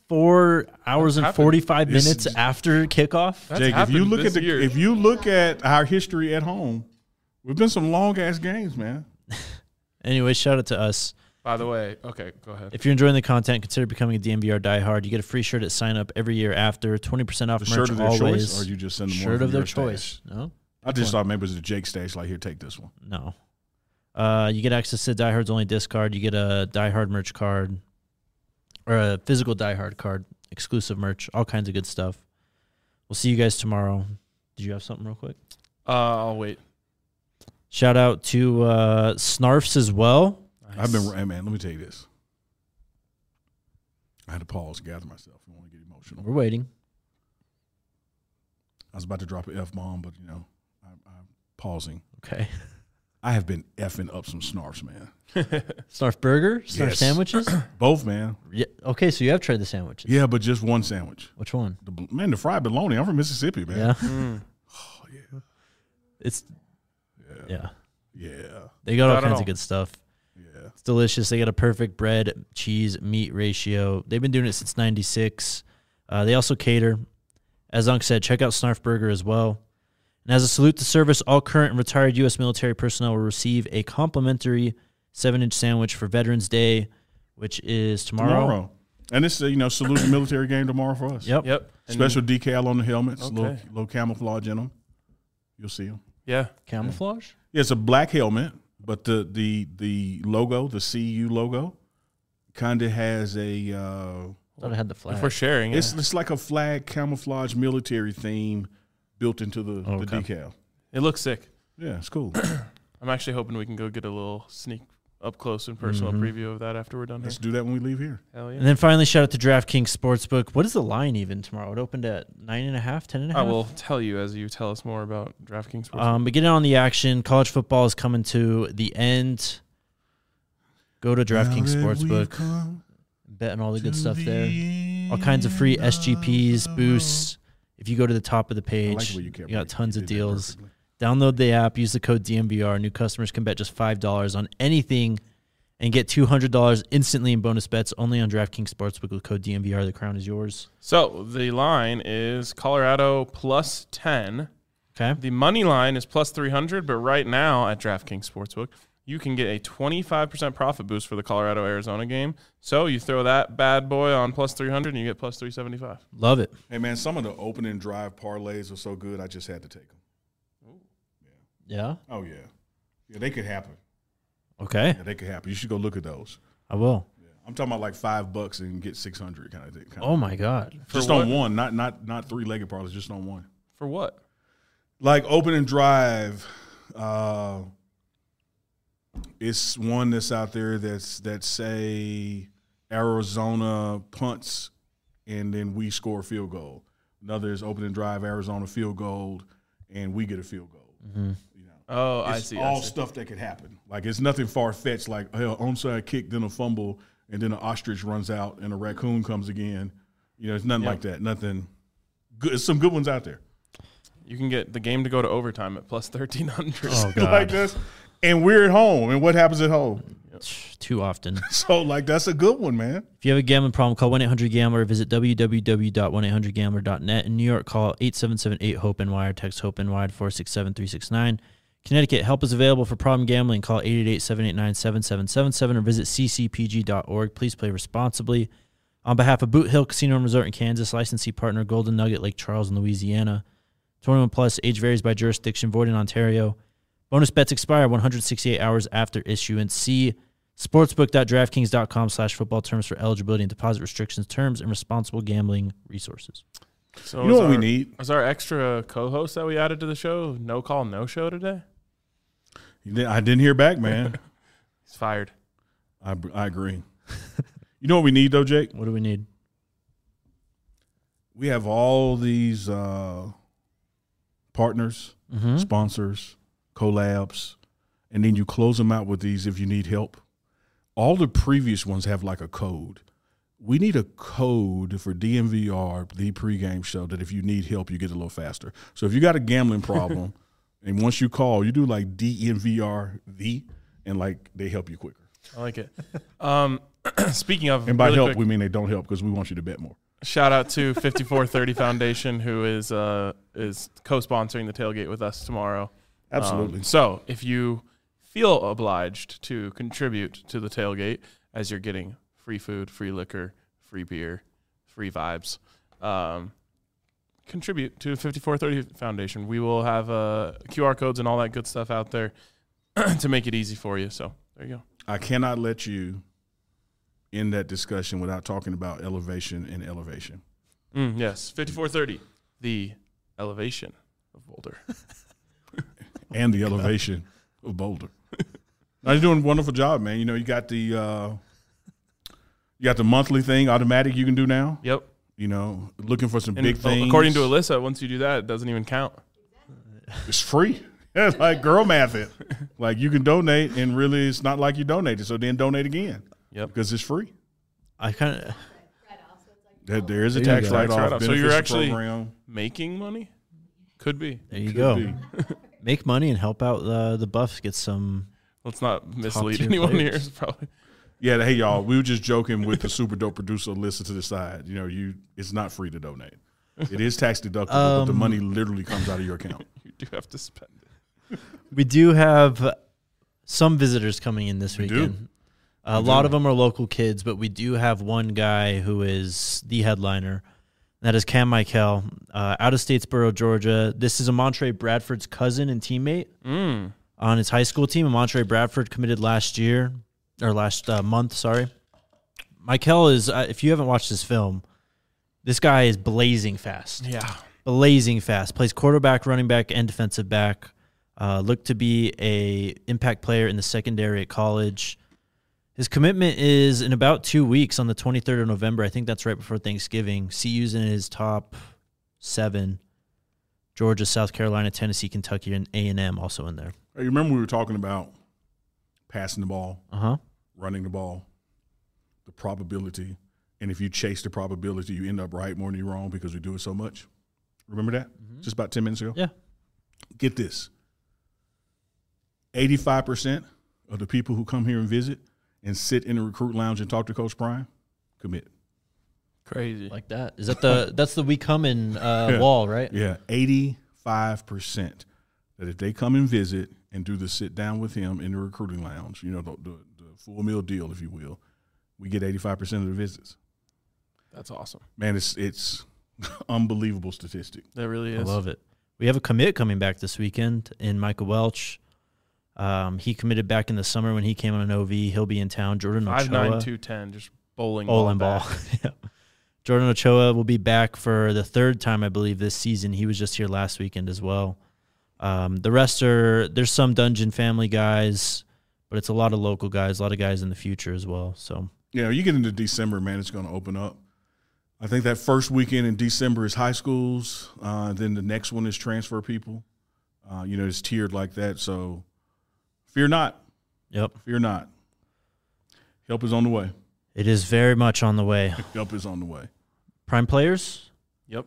four hours That's and happened. forty-five It's- minutes after kickoff. That's Jake, if you happened look at this the year. if you look at our history at home, we've been some long ass games, man. Anyway, shout out to us. By the way, okay, go ahead. If you're enjoying the content, consider becoming a D M V R diehard. You get a free shirt at sign up every year after, twenty percent off The merch shirt of their always. choice, or you just send them one Shirt from of their your choice. stash? No? I just thought maybe it was a Jake stash. Like, here, take this one. No. Uh, you get access to Die Hard's only disc card. You get a Die Hard merch card or a physical Die Hard card, exclusive merch, all kinds of good stuff. We'll see you guys tomorrow. Did you have something real quick? Uh, I'll wait. Shout out to uh, Snarfs as well. I've been, hey, man, let me tell you this. I had to pause, gather myself. I don't want to get emotional. We're waiting. I was about to drop an F bomb, but, you know, I, I'm pausing. Okay. I have been effing up some snarfs, man. Snarf burger? Snarf Yes. sandwiches? Both, man. Yeah. Okay, so you have tried the sandwiches. Yeah, but just one sandwich. Which one? The, man, the fried bologna. I'm from Mississippi, man. Yeah. Mm. Oh, yeah. It's, Yeah. yeah. Yeah. They got all Not at kinds all. of good stuff. Yeah. It's delicious. They got a perfect bread, cheese, meat ratio. They've been doing it since ninety-six. Uh, they also cater. As Unc said, check out Snarf Burger as well. And as a salute to service, all current and retired U S military personnel will receive a complimentary seven-inch sandwich for Veterans Day, which is tomorrow. Tomorrow. And it's, uh, you know, salute the military game tomorrow for us. Yep. Yep. And- Special decal on the helmets, Okay. little, little camouflage in them. You'll see them. Yeah. Camouflage? Yeah, it's a black helmet, but the the the logo, the C U logo, kind of has a. Uh, Thought I had the flag. If we're sharing, it's yeah. it's like a flag camouflage military theme built into the, Oh, the okay. decal. It looks sick. Yeah, it's cool. I'm actually hoping we can go get a little sneak up close and personal Mhm. preview of that after we're done here. Let's do that when we leave here. Hell yeah. And then finally, shout out to DraftKings Sportsbook. What is the line even tomorrow? It opened at nine and a half, ten and a I half. will tell you as you tell us more about DraftKings Sportsbook. Um, but get in on the action. College football is coming to the end. Go to DraftKings Sportsbook. Bet on all the good stuff there. All kinds of free S G Ps, boosts. If you go to the top of the I page, like the way you kept you got breaking. tons You of did that deals. perfectly. Download the app. Use the code D M V R. New customers can bet just five dollars on anything and get two hundred dollars instantly in bonus bets only on DraftKings Sportsbook with code D M V R. The crown is yours. So the line is Colorado plus ten. Okay. The money line is plus three hundred, but right now at DraftKings Sportsbook, you can get a twenty-five percent profit boost for the Colorado-Arizona game. So you throw that bad boy on plus three hundred and you get plus three seventy-five. Love it. Hey, man, some of the opening drive parlays are so good, I just had to take them. Yeah. Oh, yeah. Yeah, they could happen. Okay. Yeah, they could happen. You should go look at those. I will. Yeah. I'm talking about like five bucks and get six hundred kind of thing. Kind Oh of. my God. Just For on what? one, not not not three-legged parlays, just on one. For what? Like opening drive, uh, it's one that's out there that's that say Arizona punts and then we score a field goal. Another is opening drive, Arizona field goal, and we get a field goal. Mm-hmm. You know, Oh, I it's see. all I see. stuff that could happen. Like it's nothing far fetched. Like hell, onside kick, then a fumble, and then an ostrich runs out, and a raccoon comes again. You know, it's nothing Yep. like that. Nothing. Good. There's some good ones out there. You can get the game to go to overtime at plus thirteen hundred. Oh God. like this. And we're at home. And what happens at home? Too often. So, like, that's a good one, man. If you have a gambling problem, call one eight hundred gambler or visit w w w dot one eight hundred gambler dot net. In New York, call eight seven seven eight hope N Y or text HOPE N Y to four six seven three six nine. Connecticut, help is available for problem gambling. Call eight eight eight seven eight nine seven seven seven seven or visit c c p g dot org. Please play responsibly. On behalf of Boot Hill Casino and Resort in Kansas, licensee partner Golden Nugget, Lake Charles in Louisiana. twenty-one plus, age varies by jurisdiction, void in Ontario. Bonus bets expire one hundred sixty-eight hours after issuance. See sportsbook dot draftkings dot com slash football terms for eligibility and deposit restrictions, terms, and responsible gambling resources. So You know is what we our- need? Is our extra co-host that we added to the show no call, no show today? I didn't hear back, man. He's fired. I, I agree. You know what we need, though, Jake? What do we need? We have all these uh, partners, Mm-hmm. sponsors, collabs, and then you close them out with these if you need help. All the previous ones have like a code. We need a code for D M V R, the pregame show, that if you need help, you get a little faster. So if you got a gambling problem, and once you call, you do like D M V R, the, and like they help you quicker. I like it. Um, speaking of, And by really help, quick, we mean they don't help because we want you to bet more. shout out to fifty-four thirty Foundation, who is uh, is co-sponsoring the tailgate with us tomorrow. Absolutely. Um, so if you feel obliged to contribute to the tailgate, as you're getting free food, free liquor, free beer, free vibes, um, contribute to fifty-four thirty Foundation. We will have uh, Q R codes and all that good stuff out there to make it easy for you. So there you go. I cannot let you end that discussion without talking about elevation and elevation. Mm, yes, fifty-four thirty, the elevation of Boulder. And the elevation of Boulder. Now, you're doing a wonderful job, man. You know, you got the uh, you got the monthly thing automatic you can do now. Yep. You know, looking for some And big things. according to Alyssa, once you do that, it doesn't even count. It's free. Yeah, it's like girl math it. Like you can donate, and really, it's not like you donated. So then donate again. Yep. Because it's free. I kind of. Write-off, so it's like, There, there is a There you tax go. write Tax off. write-off. So you're actually making money? Could be. There you Could go. be. Make money and help out uh, the Buffs get some. Let's not mislead Top-tier anyone players. here. It's probably Yeah, hey y'all, we were just joking with the super dope producer. Listen to the side. You know, you it's not free to donate. It is tax deductible, but the Um, money literally comes out of your account. you do have to spend it. We do have some visitors coming in this We do. weekend. A We lot do. of them are local kids, but we do have one guy who is the headliner. That is Cam Michael, uh, out of Statesboro, Georgia. This is a Montre Bradford's cousin and teammate Mm. on his high school team. And Montre Bradford committed last year, or last uh, month, sorry. Michael is, uh, if you haven't watched this film, this guy is blazing fast. Yeah. Blazing fast. Plays quarterback, running back, and defensive back. Uh, looked to be a impact player in the secondary at college. His commitment is in about two weeks on the twenty-third of November. I think that's right before Thanksgiving. C U's in his top seven. Georgia, South Carolina, Tennessee, Kentucky, and A and M also in there. Hey, you remember we were talking about passing the ball, Uh-huh. running the ball, the probability, and if you chase the probability, you end up right more than you're wrong because we do it so much. Remember that? Just about ten minutes ago? Yeah. Get this. eighty-five percent of the people who come here and visit and sit in the recruit lounge and talk to Coach Prime commit. Crazy. Like that. Is that the that's the we come in uh, Yeah. wall, right? Yeah, eighty-five percent that if they come and visit and do the sit down with him in the recruiting lounge, you know, the, the, the full meal deal, if you will, we get eighty-five percent of the visits. That's awesome. Man, it's it's unbelievable statistic. That really I is. love it. We have a commit coming back this weekend in Michael Welch. Um, he committed back in the summer when he came on an O V. He'll be in town. Jordan Five Ochoa. nine two ten, just bowling, Bowling ball. ball. back. Yeah. Jordan Ochoa will be back for the third time, I believe, this season. He was just here last weekend as well. Um, the rest are, there's some Dungeon family guys, but it's a lot of local guys, a lot of guys in the future as well. So, Yeah, you get into December, man, it's going to open up. I think that first weekend in December is high schools. Uh, then the next one is transfer people. Uh, you know, it's tiered like that. So fear not. yep, Fear not. Help is on the way. it is very much on the way. Help is on the way. Prime players, Yep.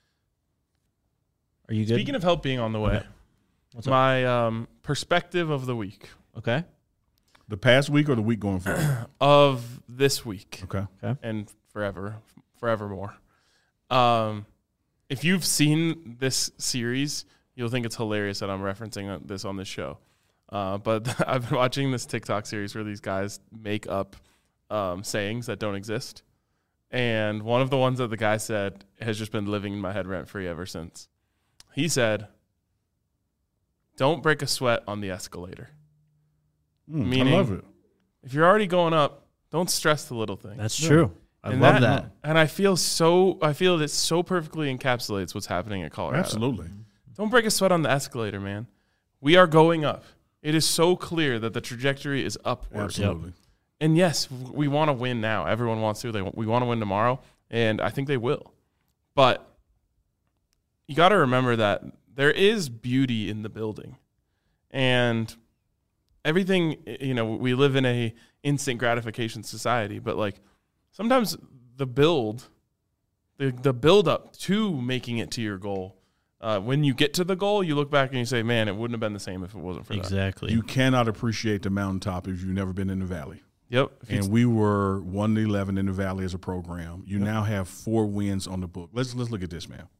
are you good? Speaking of help being on the way, Okay. What's up? my um, perspective of the week, Okay. The past week or the week going forward? of this week, Okay. and forever, forevermore. Um, if you've seen this series, you'll think it's hilarious that I'm referencing this on this show. Uh, but I've been watching this TikTok series where these guys make up um, sayings that don't exist. And one of the ones that the guy said has just been living in my head rent-free ever since. He said, "Don't break a sweat on the escalator." Mm, Meaning- I love it. If you're already going up, don't stress the little things. That's true. I And love that. And I feel so, I feel that so perfectly encapsulates what's happening at Colorado. Absolutely. Don't break a sweat on the escalator, man. We are going up. It is so clear that the trajectory is upward. Absolutely. And yes, we want to win now. Everyone wants to. They we want to win tomorrow, and I think they will. But you got to remember that there is beauty in the building, and everything. You know, we live in a instant gratification society, but like sometimes the build, the the build up to making it to your goal, Uh, when you get to the goal, you look back and you say, man, it wouldn't have been the same if it wasn't for that. Exactly. You cannot appreciate the mountaintop if you've never been in the valley. Yep. And we were one to eleven in the valley as a program. You yep. now have four wins on the book. Let's let's look at this, man.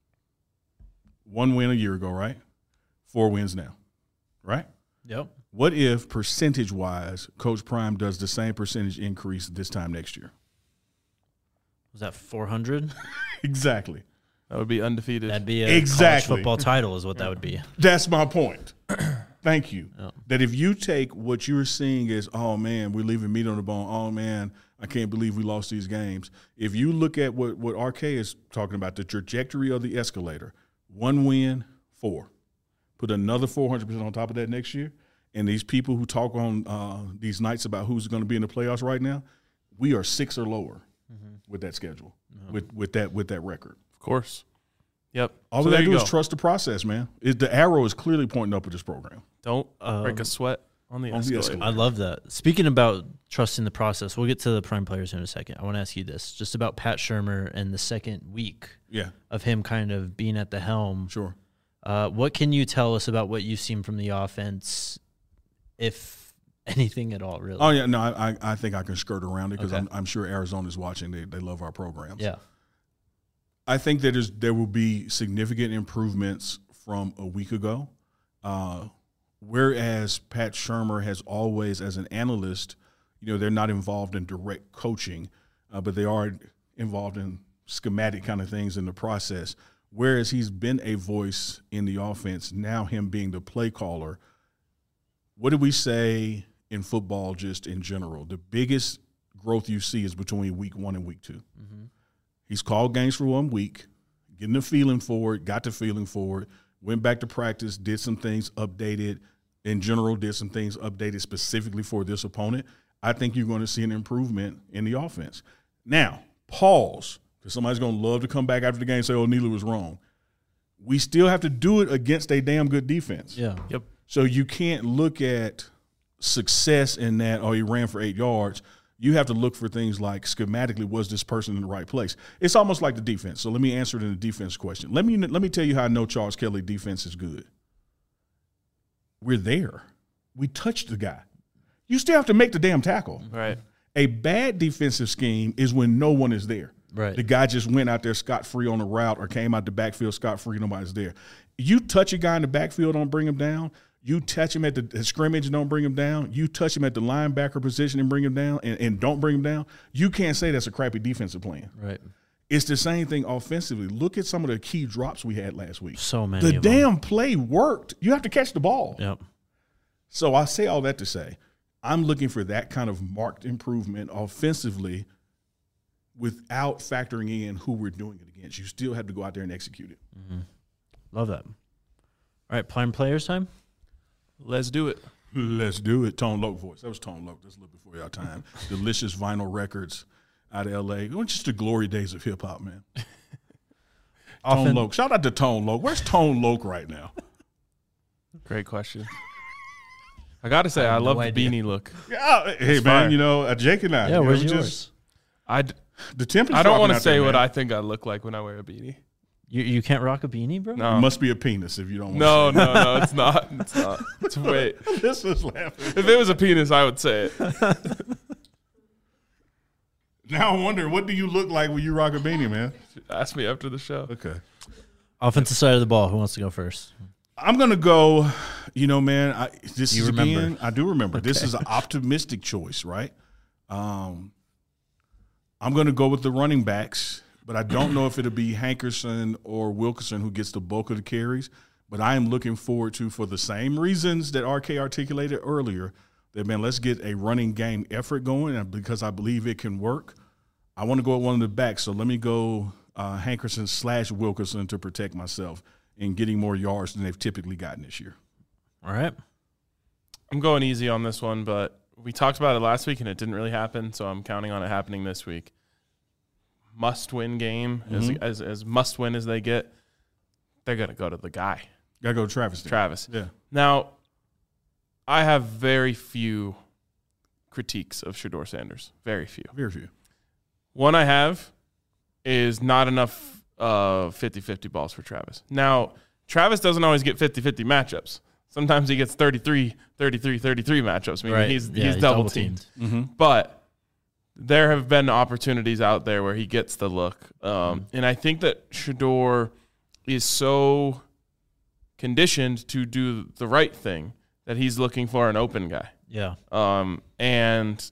One win a year ago, right? Four wins now, right? Yep. What if percentage-wise, Coach Prime does the same percentage increase this time next year? Was that four hundred? Exactly. That would be undefeated. That'd be a exactly. college football title is what that would be. That's my point. Thank you. Oh. That if you take what you're seeing as, oh, man, we're leaving meat on the bone. Oh, man, I can't believe we lost these games. If you look at what, what R K is talking about, the trajectory of the escalator, one win, four. Put another four hundred percent on top of that next year. And these people who talk on uh, these nights about who's going to be in the playoffs right now, we are six or lower mm-hmm. with that schedule, mm-hmm. with, with, that, with that record. Of course. Yep. All so we got to do go. is trust the process, man. It, the arrow is clearly pointing up with this program. Don't um, break a sweat on the, on the escalator. I love that. Speaking about trusting the process, we'll get to the prime players in a second. I want to ask you this, just about Pat Shurmur and the second week yeah. of him kind of being at the helm. Sure. Uh, what can you tell us about what you've seen from the offense, if anything at all, really? Oh, yeah. No, I, I think I can skirt around it because okay. I'm, I'm sure Arizona's watching. They, they love our programs. Yeah. I think that is, there will be significant improvements from a week ago. Uh, whereas Pat Shurmur has always, as an analyst, you know, they're not involved in direct coaching, uh, but they are involved in schematic kind of things in the process. Whereas he's been a voice in the offense, now him being the play caller. What do we say in football just in general? The biggest growth you see is between week one and week two. Mm-hmm. He's called games for one week, getting the feeling for it, got the feeling for it, went back to practice, did some things, updated. In general, did some things updated specifically for this opponent. I think you're going to see an improvement in the offense. Now, pause. Because somebody's going to love to come back after the game and say, oh, Neely was wrong. We still have to do it against a damn good defense. Yeah. Yep. So you can't look at success in that, oh, he ran for eight yards. You have to look for things like schematically, was this person in the right place? It's almost like the defense. So let me answer it in the defense question. Let me, let me tell you how I know Charles Kelly defense is good. We're there. We touched the guy. You still have to make the damn tackle. Right. A bad defensive scheme is when no one is there. Right. The guy just went out there scot-free on the route or came out the backfield scot-free, nobody's there. You touch a guy in the backfield, don't bring him down. You touch him at the, the scrimmage and don't bring him down. You touch him at the linebacker position and bring him down and, and don't bring him down. You can't say that's a crappy defensive plan. Right. It's the same thing offensively. Look at some of the key drops we had last week. So many The of damn them. play worked. You have to catch the ball. Yep. So I say all that to say I'm looking for that kind of marked improvement offensively without factoring in who we're doing it against. You still have to go out there and execute it. Mm-hmm. Love that. All right, prime players time? Let's do it. Let's do it. Tone Loc voice. That was Tone Loc. That's a little before your time. Delicious vinyl records out of L A. It was just the glory days of hip-hop, man. Often, Tone Loc. Shout out to Tone Loc. Where's Tone Loc right now? Great question. I got to say, I, I love no the idea. beanie look. Yeah, hey, It's man, fire. you know, uh, Jake and I. Yeah, you where's know, yours? just- I, d- The temp is I don't dropping want to out say there, what man. I think I look like when I wear a beanie. You you can't rock a beanie, bro? No. It must be a penis if you don't want No, to no, no, it's not. It's not. It's wait. This is laughing. If it was a penis, I would say it. Now I wonder, what do you look like when you rock a beanie, man? Ask me after the show. Okay. Offensive side of the ball. Who wants to go first? I'm going to go, you know, man, I, this You is remember. again, I do remember. This Okay. is an optimistic choice, right? Um, I'm going to go with the running backs, but I don't know if it'll be Hankerson or Wilkerson who gets the bulk of the carries. But I am looking forward to, for the same reasons that R K articulated earlier, that, man, let's get a running game effort going, and because I believe it can work. I want to go at one of the backs, so let me go uh, Hankerson slash Wilkerson to protect myself in getting more yards than they've typically gotten this year. All right. I'm going easy on this one, but we talked about it last week and it didn't really happen, so I'm counting on it happening this week. Must-win game, Mm-hmm. as, as as must-win as they get, they're going to go to the guy, Got to go to Travis. then. Travis. Yeah. Now, I have very few critiques of Shedeur Sanders. Very few. Very few. One I have is not enough uh, fifty-fifty balls for Travis. Now, Travis doesn't always get fifty-fifty matchups. Sometimes he gets thirty-three, thirty-three, thirty-three matchups. I mean, Right. he's, Yeah, he's he's double double-teamed. teamed. Mm-hmm. But there have been opportunities out there where he gets the look. Um, Mm-hmm. and I think that Shedeur is so conditioned to do the right thing that he's looking for an open guy. Yeah. Um, and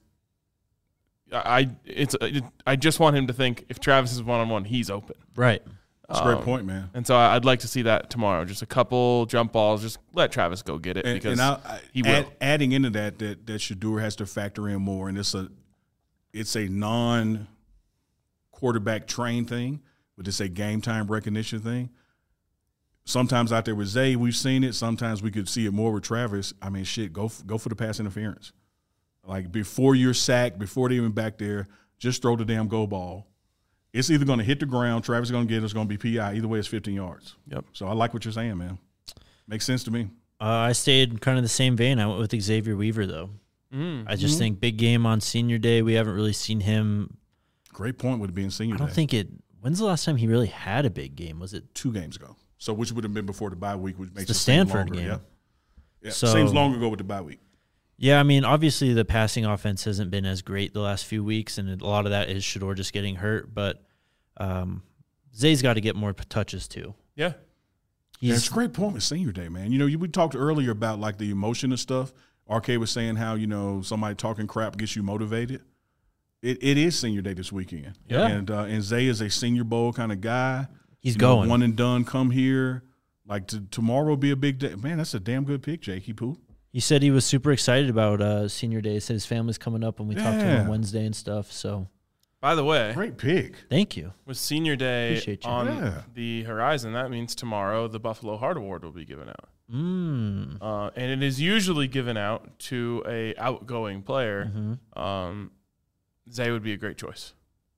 I it's it, I just want him to think if Travis is one-on-one, he's open. Right. That's a great Um, point, man. And so I'd like to see that tomorrow. Just a couple jump balls. Just let Travis go get it And, because and I, I, he will. add, adding into that, that that Shedeur has to factor in more, and it's a it's a non quarterback train thing, but it's a game time recognition thing. Sometimes out there with Zay, we've seen it. Sometimes we could see it more with Travis. I mean, shit, go f- go for the pass interference. Like before you're sacked, before they're even back there, just throw the damn go ball. It's either going to hit the ground, Travis is going to get it, it's going to be P I. Either way, it's fifteen yards. Yep. So I like what you're saying, man. Makes sense to me. Uh, I stayed kind of the same vein. I went with Xavier Weaver, though. Mm. I just think big game on senior day. We haven't really seen him. Great point with it being senior I don't day. think it. When's the last time he really had a big game? Was it Two games ago. So which would have been before the bye week, which makes the it seem Stanford longer. game? Yeah. Yeah. So- Seems long ago with the bye week. Yeah, I mean, obviously the passing offense hasn't been as great the last few weeks, and a lot of that is Shedeur just getting hurt. But um, Zay's got to get more p- touches too. Yeah. Yeah, He's it's a great point with senior day, man. You know, you, we talked earlier about like the emotion of stuff. R K was saying how, you know, somebody talking crap gets you motivated. It it is senior day this weekend. Yeah. And uh, and Zay is a senior bowl kind of guy. he's You know, going. one and done, come here. Like to, tomorrow will be a big day. Man, that's a damn good pick, Jakey Poo. He said he was super excited about uh, senior day. He said his family's coming up when we talked to him on Yeah. Wednesday and stuff. So By the way, Great pick. thank you. with Senior Day Appreciate you. on Yeah. the horizon, that means tomorrow the Buffalo Heart Award will be given out. Mm. Uh, and it is usually given out to a outgoing player. Mhm. Um, Zay would be a great choice.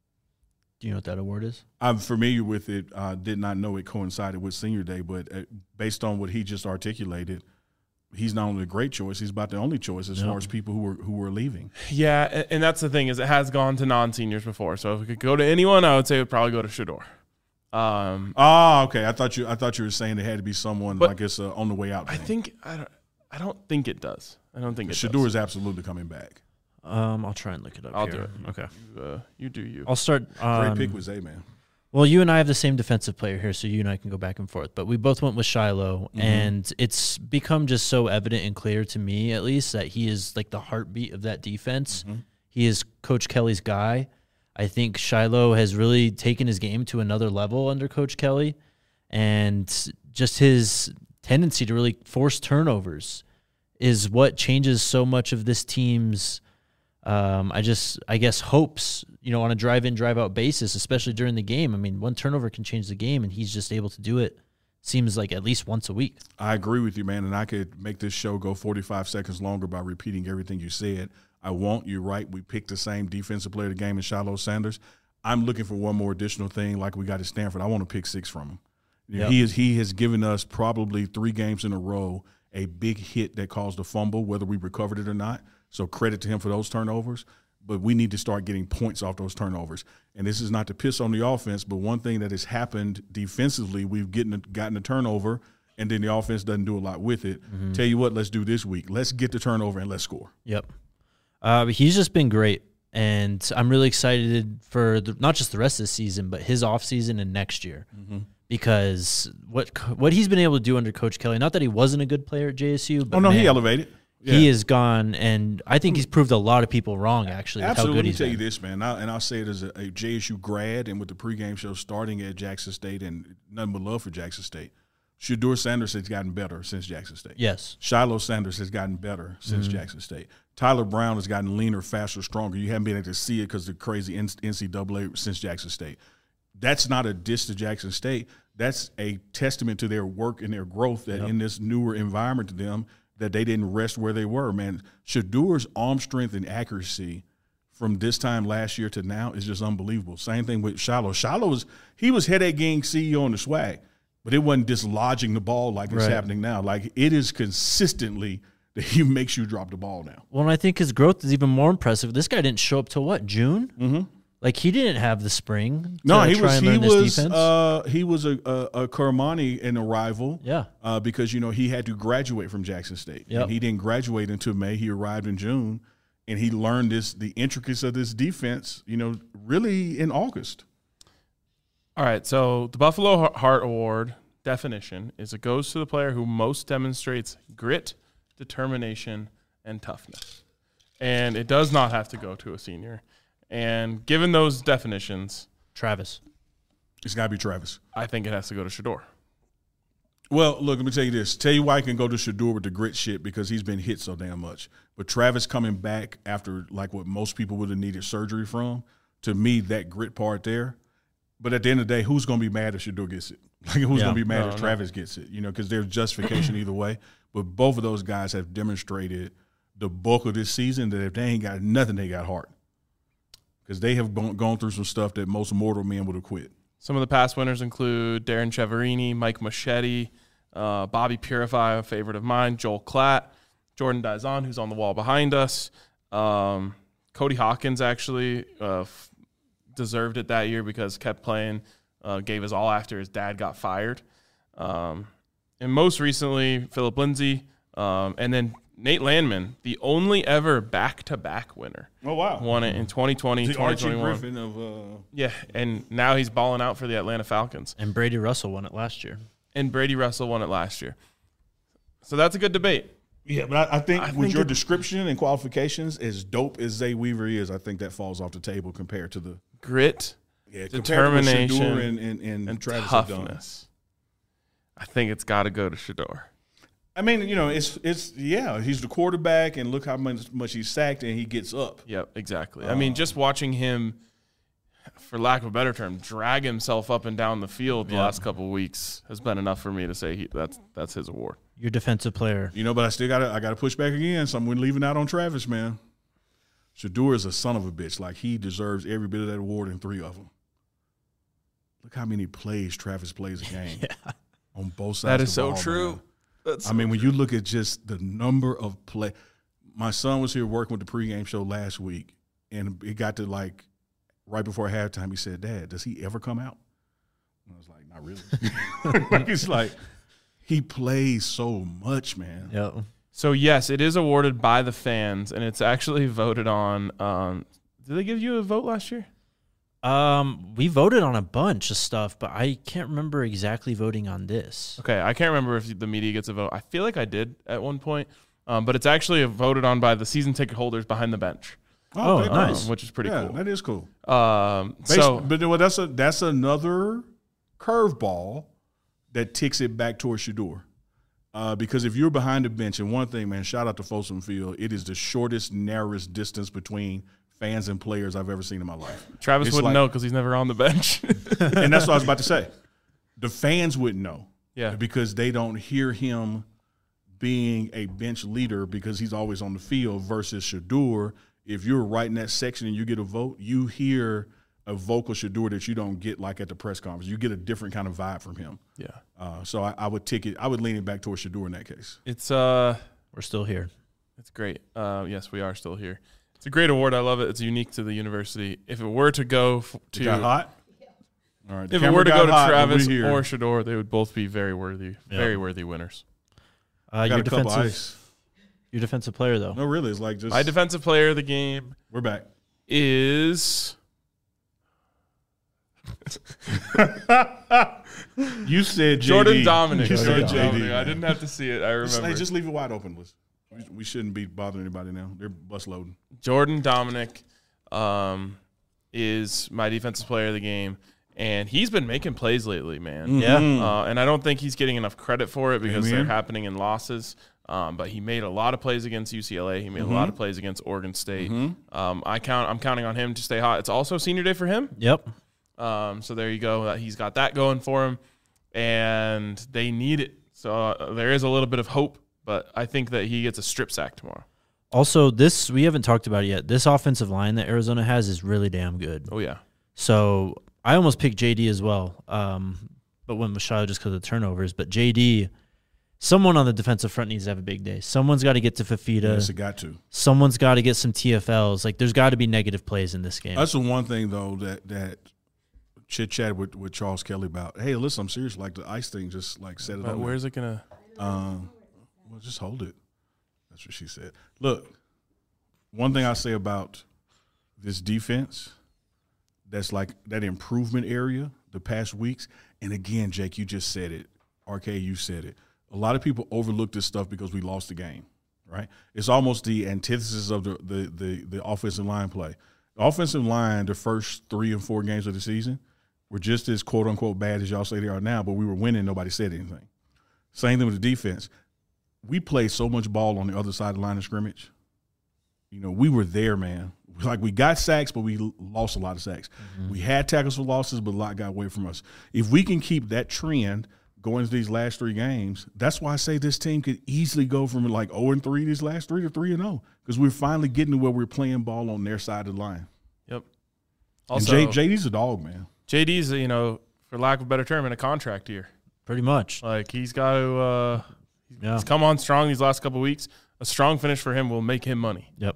Do you know what that award is? I'm familiar with it. Uh, did not know it coincided with senior day, but uh, based on what he just articulated, he's not only a great choice, he's about the only choice as Yep. far as people who were who were leaving. Yeah, and, and that's the thing is it has gone to non-seniors before. So if it could go to anyone, I would say it would probably go to Shedeur. Um, Oh, okay. I thought you I thought you were saying it had to be someone But like it's uh, on the way out. I thing. think I don't. I don't think it does. I don't think it Shedeur does. is absolutely coming back. Um, I'll try and look it up. I'll here. do it. Okay. You, uh, you do you. I'll start. Great On, pick with Zay, man. Well, you and I have the same defensive player here, so you and I can go back and forth. But we both went with Shiloh, Mhm. and it's become just so evident and clear to me, at least, that he is like the heartbeat of that defense. Mhm. He is Coach Kelly's guy. I think Shiloh has really taken his game to another level under Coach Kelly, and just his tendency to really force turnovers is what changes so much of this team's um, I just, I guess, hopes, you know, on a drive-in, drive-out basis, especially during the game. I mean, one turnover can change the game, and he's just able to do it, seems like at least once a week. I agree with you, man, and I could make this show go forty-five seconds longer by repeating everything you said. I won't. You're right. We picked the same defensive player of the game in Shiloh Sanders. I'm looking for one more additional thing like we got at Stanford. I want to pick six from him. Yep. He is he has given us probably three games in a row a big hit that caused a fumble, whether we recovered it or not. So credit to him for those turnovers. But we need to start getting points off those turnovers. And this is not to piss on the offense, but one thing that has happened defensively, we've getting gotten a turnover, and then the offense doesn't do a lot with it. Mm-hmm. Tell you what, let's do this week. Let's get the turnover and let's score. Yep. Uh, but he's just been great, and I'm really excited for the, not just the rest of the season, but his offseason and next year. Mm-hmm. Because what co- what he's been able to do under Coach Kelly, not that he wasn't a good player at J S U, but Oh, no, man, he elevated. Yeah. he is gone, and I think he's proved a lot of people wrong, actually, with Absolutely. how Let good me he's tell been. you this, man, and I'll, and I'll say it as a, a J S U grad and with the pregame show starting at Jackson State and nothing but love for Jackson State. Shedeur Sanders has gotten better since Jackson State. Yes. Shiloh Sanders has gotten better since Mm-hmm. Jackson State. Tyler Brown has gotten leaner, faster, stronger. You haven't been able to see it because of the crazy N C double A since Jackson State. That's not a diss to Jackson State. That's a testament to their work and their growth that Yep. in this newer environment to them that they didn't rest where they were, man. Shedeur's arm strength and accuracy from this time last year to now is just unbelievable. Same thing with Shiloh. Shiloh was he was headache gang C E O on the swag, but it wasn't dislodging the ball like it's Right. happening now. Like it is consistently that he makes you drop the ball now. Well, and I think his growth is even more impressive. This guy didn't show up till what, June? Mm-hmm. Like he didn't have the spring. To No, he try was and he learn this was defense. uh, he was a a, a Kermani an arrival. Yeah. uh, because you know he had to graduate from Jackson State. Yep. And he didn't graduate until May. He arrived in June, and he learned this the intricacies of this defense. You know, really in August. All right, so the Buffalo Heart Award definition is it goes to the player who most demonstrates grit, determination, and toughness. And it does not have to go to a senior. And given those definitions, Travis. It's got to be Travis. I think it has to go to Shador. Well, look, let me tell you this. Tell you why I can go to Shador with the grit shit because he's been hit so damn much. But Travis coming back after like what most people would have needed surgery from, to me, that grit part there. But at the end of the day, who's going to be mad if Shador gets it? Like, who's Yeah. going to be mad No, if no. Travis gets it? You know, because there's justification either way. But both of those guys have demonstrated the bulk of this season that if they ain't got nothing, they got heart. Because they have gone, gone through some stuff that most mortal men would have quit. Some of the past winners include Darren Cheverini, Mike Machete, uh, Bobby Purify, a favorite of mine, Joel Klatt, Jordan Dizon, who's on the wall behind us. Um, Cody Hawkins actually uh, f- deserved it that year because kept playing, uh, gave his all after his dad got fired. Um, and most recently, Philip Lindsay, um, and then Nate Landman, the only ever back-to-back winner. Oh, wow. Won it in twenty twenty, The twenty Archie twenty-one. Griffin of uh, Yeah, and now he's balling out for the Atlanta Falcons. And Brady Russell won it last year. And Brady Russell won it last year. So that's a good debate. yeah, but I, I think I with think your it- description and qualifications, as dope as Zay Weaver is, I think that falls off the table compared to the Grit yeah, compared to what Determination Shador and, and, and, and Travis have done. toughness. I think it's got to go to Shador. I mean, you know, it's it's yeah, he's the quarterback, and look how much much he's sacked, and he gets up. Yep, exactly. I mean, just watching him, for lack of a better term, drag himself up and down the field the Yeah. last couple of weeks has been enough for me to say he, that's that's his award. Your defensive player. You know, but I still got to I got to push back again. So I'm leaving out on Travis, man. Shador is a son of a bitch. Like he deserves every bit of that award and three of them. Look how many plays Travis plays a game on both sides. That of is the so ball, true. man. That's I mean, when you look at just the number of play, my son was here working with the pregame show last week, and it got to like right before halftime. He said, "Dad, does he ever come out?" And I was like, "Not really." It's like he plays so much, man. Yep. So yes, it is awarded by the fans, and it's actually voted on. Um, did they give you a vote last year? Um, we voted on a bunch of stuff, but I can't remember exactly voting on this. Okay, I can't remember if the media gets a vote. I feel like I did at one point, um, but it's actually voted on by the season ticket holders behind the bench, Oh, okay, nice. um, which is pretty yeah, cool. that is cool. Um, Basi- so but well, that's a that's another curveball that ticks it back towards Shador. Uh, because if you're behind the bench, and one thing, man, shout out to Folsom Field, it is the shortest, narrowest distance between fans and players I've ever seen in my life. Travis it's wouldn't like- know because he's never on the bench. And that's what I was about to say. The fans wouldn't know. Yeah. Because they don't hear him being a bench leader because he's always on the field versus Shador. If you're right in that section and you get a vote, you hear a vocal Shador that you don't get like at the press conference. You get a different kind of vibe from him. yeah, Uh, so I, I would tick it. I would lean it back towards Shador in that case. it's uh, We're still here. it's great. Uh, yes, we are still here. It's a great award. I love it. It's unique to the university. If it were to go f- to, It got hot. All right. the if it camera were to got go to hot, and Travis we're here. or Shador, they would both be very worthy, Yeah. very worthy winners. Uh, got your a couple defensive, ice. your defensive player though. No, really, it's like just My defensive player of the game we're back. is You said J D. Jordan Dominic. You Jordan said J D. Dominic. I didn't have to see it. I Just, remember. hey, just leave it wide open. Liz. We, we shouldn't be bothering anybody now. They're bus loading. Jordan Dominic um, is my defensive player of the game, and he's been making plays lately, man. Yeah. Uh, and I don't think he's getting enough credit for it because Amen. they're happening in losses. Um, but he made a lot of plays against U C L A. He made a lot of plays against Oregon State. Um, I count. I'm counting on him to stay hot. It's also senior day for him. Yep. Um, so there you go. Uh, He's got that going for him, and they need it. So uh, there is a little bit of hope, but I think that he gets a strip sack tomorrow. Also, this we haven't talked about it yet. This offensive line that Arizona has is really damn good. Oh yeah. So I almost picked J D as well, um, but went with Machado just because of the turnovers. But J D someone on the defensive front needs to have a big day. Someone's got to get to Fafita. Yes, it got to. Someone's got to get some T F Ls. Like, there's got to be negative plays in this game. That's the one thing, though, that that chit chat with, with Charles Kelly about. Hey, listen, I'm serious. Like, the ice thing, just like set it But on. where's it gonna? Um, well, just hold it. That's what she said. Look, one thing I say about this defense, that's like that improvement area the past weeks. And again, Jake, you just said it. R K, you said it. A lot of people overlook this stuff because we lost the game, right? It's almost the antithesis of the the the, the offensive line play. The offensive line, the first three and four games of the season, were just as quote unquote bad as y'all say they are now, but we were winning. Nobody said anything. Same thing with the defense. We played so much ball on the other side of the line of scrimmage. You know, we were there, man. Like, we got sacks, but we lost a lot of sacks. Mm-hmm. We had tackles for losses, but a lot got away from us. If we can keep that trend going into these last three games, that's why I say this team could easily go from like oh and three these last three to three and oh, because we're finally getting to where we're playing ball on their side of the line. Yep. Also, and J, JD's a dog, man. J D's, you know, for lack of a better term, in a contract year. Pretty much. Like, he's got to uh, – Yeah. he's come on strong these last couple of weeks. A strong finish for him will make him money. Yep.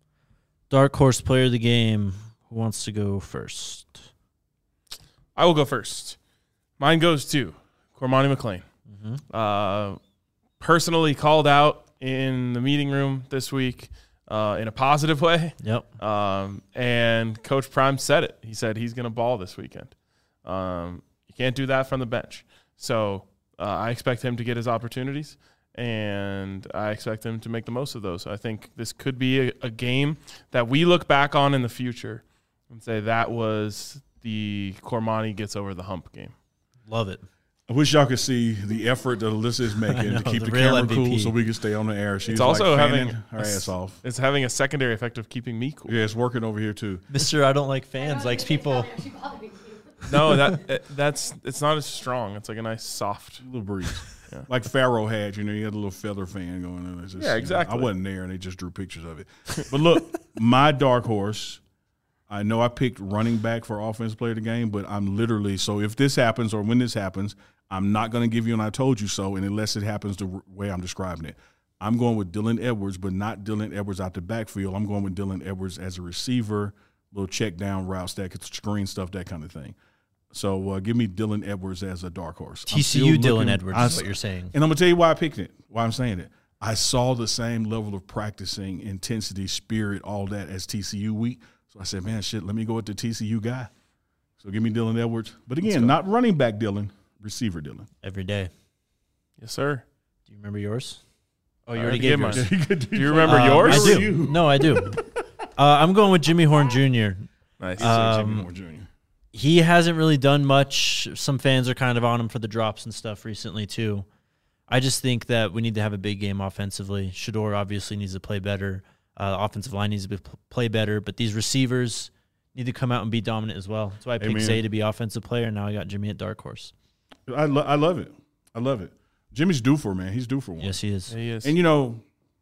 Dark horse player of the game. Who wants to go first? I will go first. Mine goes to Cormani McClain. Mm-hmm. Uh, personally called out in the meeting room this week uh, in a positive way. Yep. Um, and Coach Prime said it. He said he's going to ball this weekend. Um, you can't do that from the bench. So uh, I expect him to get his opportunities, and I expect him to make the most of those. I think this could be a, a game that we look back on in the future and say that was the Cormani gets over the hump game. Love it. I wish y'all could see the effort that Alyssa is making know, to keep the the, real camera M V P. cool so we can stay on the air. She's It's also like having fanning her a s- ass off. It's having a secondary effect of keeping me cool. Yeah, it's working over here too. Mister I don't like fans likes people. No, that it, that's it's not as strong. It's like a nice soft. A little breeze. Yeah. Like Pharaoh had, you know, you had a little feather fan going on. It's just, Yeah, you know, exactly. I wasn't there, and they just drew pictures of it. But look, my dark horse, I know I picked running back for offensive player of the game, but I'm literally – so if this happens or when this happens, I'm not going to give you an I told you so, and unless it happens the way I'm describing it. I'm going with Dylan Edwards, but not Dylan Edwards out the backfield. I'm going with Dylan Edwards as a receiver, little check down routes, that could screen stuff, that kind of thing. So uh, give me Dylan Edwards as a dark horse. I'm T C U still Dylan looking- Edwards I- is what you're saying. And I'm going to tell you why I picked it, why I'm saying it. I saw the same level of practicing, intensity, spirit, all that as T C U week. So I said, man, shit, let me go with the T C U guy. So give me Dylan Edwards. But again, not running back Dylan, receiver Dylan. Every day. Yes, sir. Do you remember yours? Oh, I you already already gave gave yours. Do you remember Um, yours? I do. You. No, I do. uh, I'm going with Jimmy Horn Junior Nice. Uh, Jimmy Um, Moore Junior He hasn't really done much. Some fans are kind of on him for the drops and stuff recently, too. I just think that we need to have a big game offensively. Shador obviously needs to play better. Uh, offensive line needs to be, play better. But these receivers need to come out and be dominant as well. That's why I picked Amen. Zay to be offensive player, and now I got Jimmy at dark horse. I, lo- I love it. I love it. Jimmy's due for, man. He's due for one. Yes, he is. Yeah, he is. And, you know,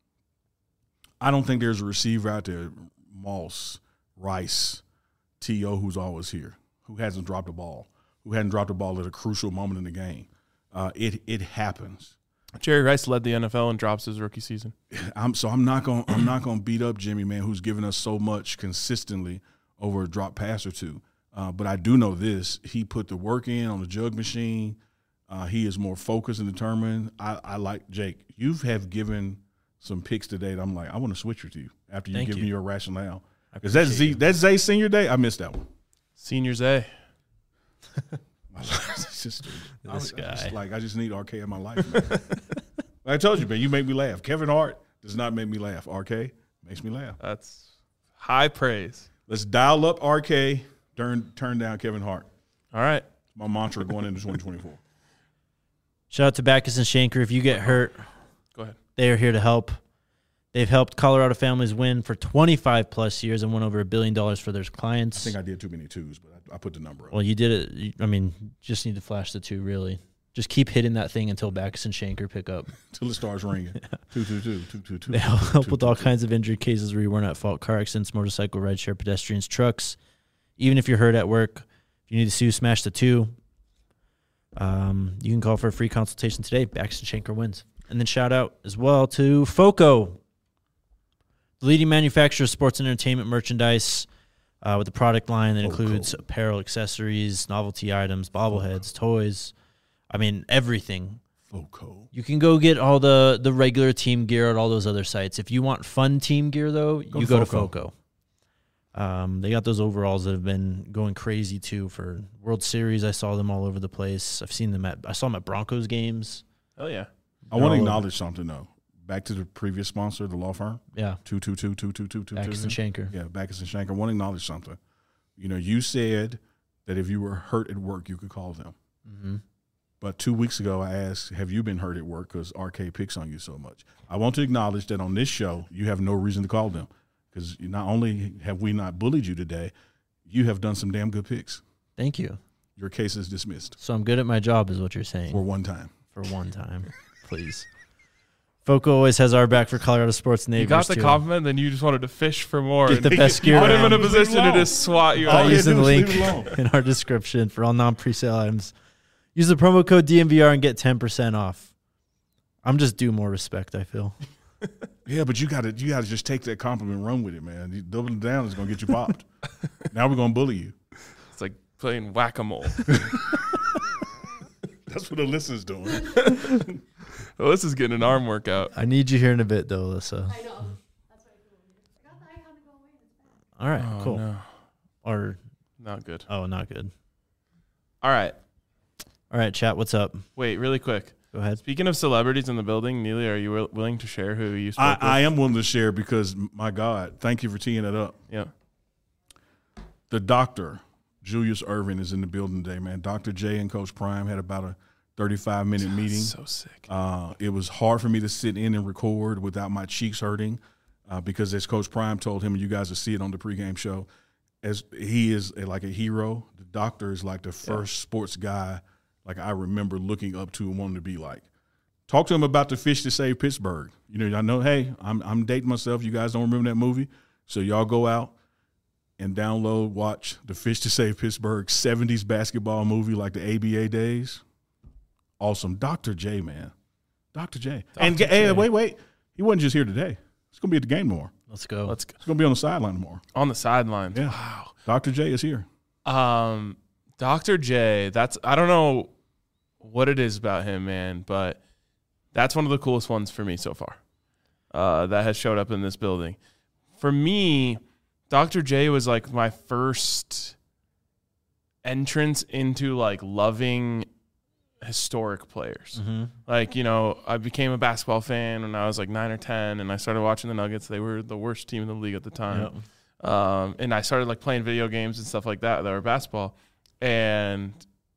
I don't think there's a receiver out there, Moss, Rice, T O, who's always here, who hasn't dropped a ball, who hadn't dropped a ball at a crucial moment in the game. Uh, it it happens. Jerry Rice led the N F L in drops his rookie season. I'm so I'm not gonna I'm not gonna beat up Jimmy, man, who's given us so much consistently over a drop pass or two. Uh, but I do know this: he put the work in on the jug machine. Uh, he is more focused and determined. I, I like Jake. You have given some picks today that I'm like, I want to switch with you after you Thank give you. me your rationale. I Is that appreciate Z? you. That's Zay senior day. I missed that one. Senior Zay. It's just, I, This I just, guy. like I just need R K in my life, man. I told you, man. You make me laugh. Kevin Hart does not make me laugh. R K makes me laugh. That's high praise. Let's dial up R K. Turn turn down Kevin Hart. All right. My mantra going into twenty twenty-four. Shout out to Backus and Shanker. If you get hurt, Go ahead. they are here to help. They've helped Colorado families win for twenty-five plus years and won over a billion dollars for their I clients. think I did too many twos, but I, I put the number up. Well, you did it. you- I mean, just need to flash the two, really. Just keep hitting that thing until Backus and Shanker pick up. Until it starts ringing. Two, two, two, two, two, two. They two, help two, with two, all two. kinds of injury cases where you weren't at fault: car accidents, motorcycle, rideshare, pedestrians, trucks. Even if you're hurt at work, if you need to sue, smash the two. Um, you can call for a free consultation today. Backus and Shanker wins. And then shout out as well to FOCO, the leading manufacturer of sports and entertainment merchandise, uh, with a product line that FOCO. includes apparel, accessories, novelty items, bobbleheads, toys. I mean, everything. FOCO. You can go get all the, the regular team gear at all those other sites. If you want fun team gear, though, Go you to go to FOCO. FOCO. Um, they got those overalls that have been going crazy, too, for World Series. I saw them all over the place. I've seen them at – I saw them at Broncos games. Oh, yeah. I want to They're all acknowledge something, though. Back to the previous sponsor, the law firm, Yeah, two two two two two two two. Backus and Shanker. Yeah, Backus and Shanker. I want to acknowledge something. You know, you said that if you were hurt at work, you could call them. Mm-hmm. But two weeks ago, I asked, have you been hurt at work because R K picks on you so much? I want to acknowledge that on this show, you have no reason to call them because not only have we not bullied you today, you have done some damn good picks. Thank you. Your case is dismissed So I'm good at my job is what you're saying. for one time. For one time, please. FOCO always has our back for Colorado sports neighbors, You got the too. compliment, then you just wanted to fish for more. Get and the best gear Put him in around. a position to just swat you All out. you Use the had to do was link leave it alone. in our description for all non-presale items. Use the promo code D M V R and get ten percent off. I'm just due more respect, I feel. Yeah, but you got to you got to just take that compliment and run with it, man. You doubling down is going to get you popped. Now we're going to bully you. It's like playing whack-a-mole. That's what Alyssa's doing. Well, this is getting an arm workout. I need you here in a bit, though, Alyssa. I know. That's why I feel weird. I got the icon to go away. It's back. All right, Oh, cool. no. Or, Not good. oh, not good. All right. All right, chat, what's up? Wait, really quick. Go ahead. Speaking of celebrities in the building, Neely, are you wi- willing to share who you spoke I, with? I am willing to share because, my God, thank you for teeing it up. Yeah. The doctor, Julius Irvin, is in the building today, man. Doctor J and Coach Prime had about a thirty-five minute meeting. So sick. Uh, it was hard for me to sit in and record without my cheeks hurting uh, because, as Coach Prime told him, and you guys will see it on the pregame show, as he is a, like a hero. The doctor is like the first sports guy like I remember looking up to and wanting to be like. Talk to him about the fish to save Pittsburgh. You know, I know, hey, I'm I'm dating myself. You guys don't remember that movie, so y'all go out and download, watch the Fish to Save Pittsburgh seventies basketball movie like the A B A days. Awesome. Doctor J, man. Doctor J. And Doctor hey, J. wait, wait. He wasn't just here today. He's going to be at the game tomorrow. Let's go. Let's go. He's going to be on the sideline tomorrow. On the sidelines. Yeah. Wow. Doctor J is here. Um, Doctor J, that's I don't know what it is about him, man, but that's one of the coolest ones for me so far. Uh, that has showed up in this building. For me, Doctor J was like my first entrance into like loving historic players. Mm-hmm. Like, you know, I became a basketball fan when I was like nine or ten, and I started watching the Nuggets. They were the worst team in the league at the time. Yep. Um, and I started like playing video games and stuff like that that were basketball. And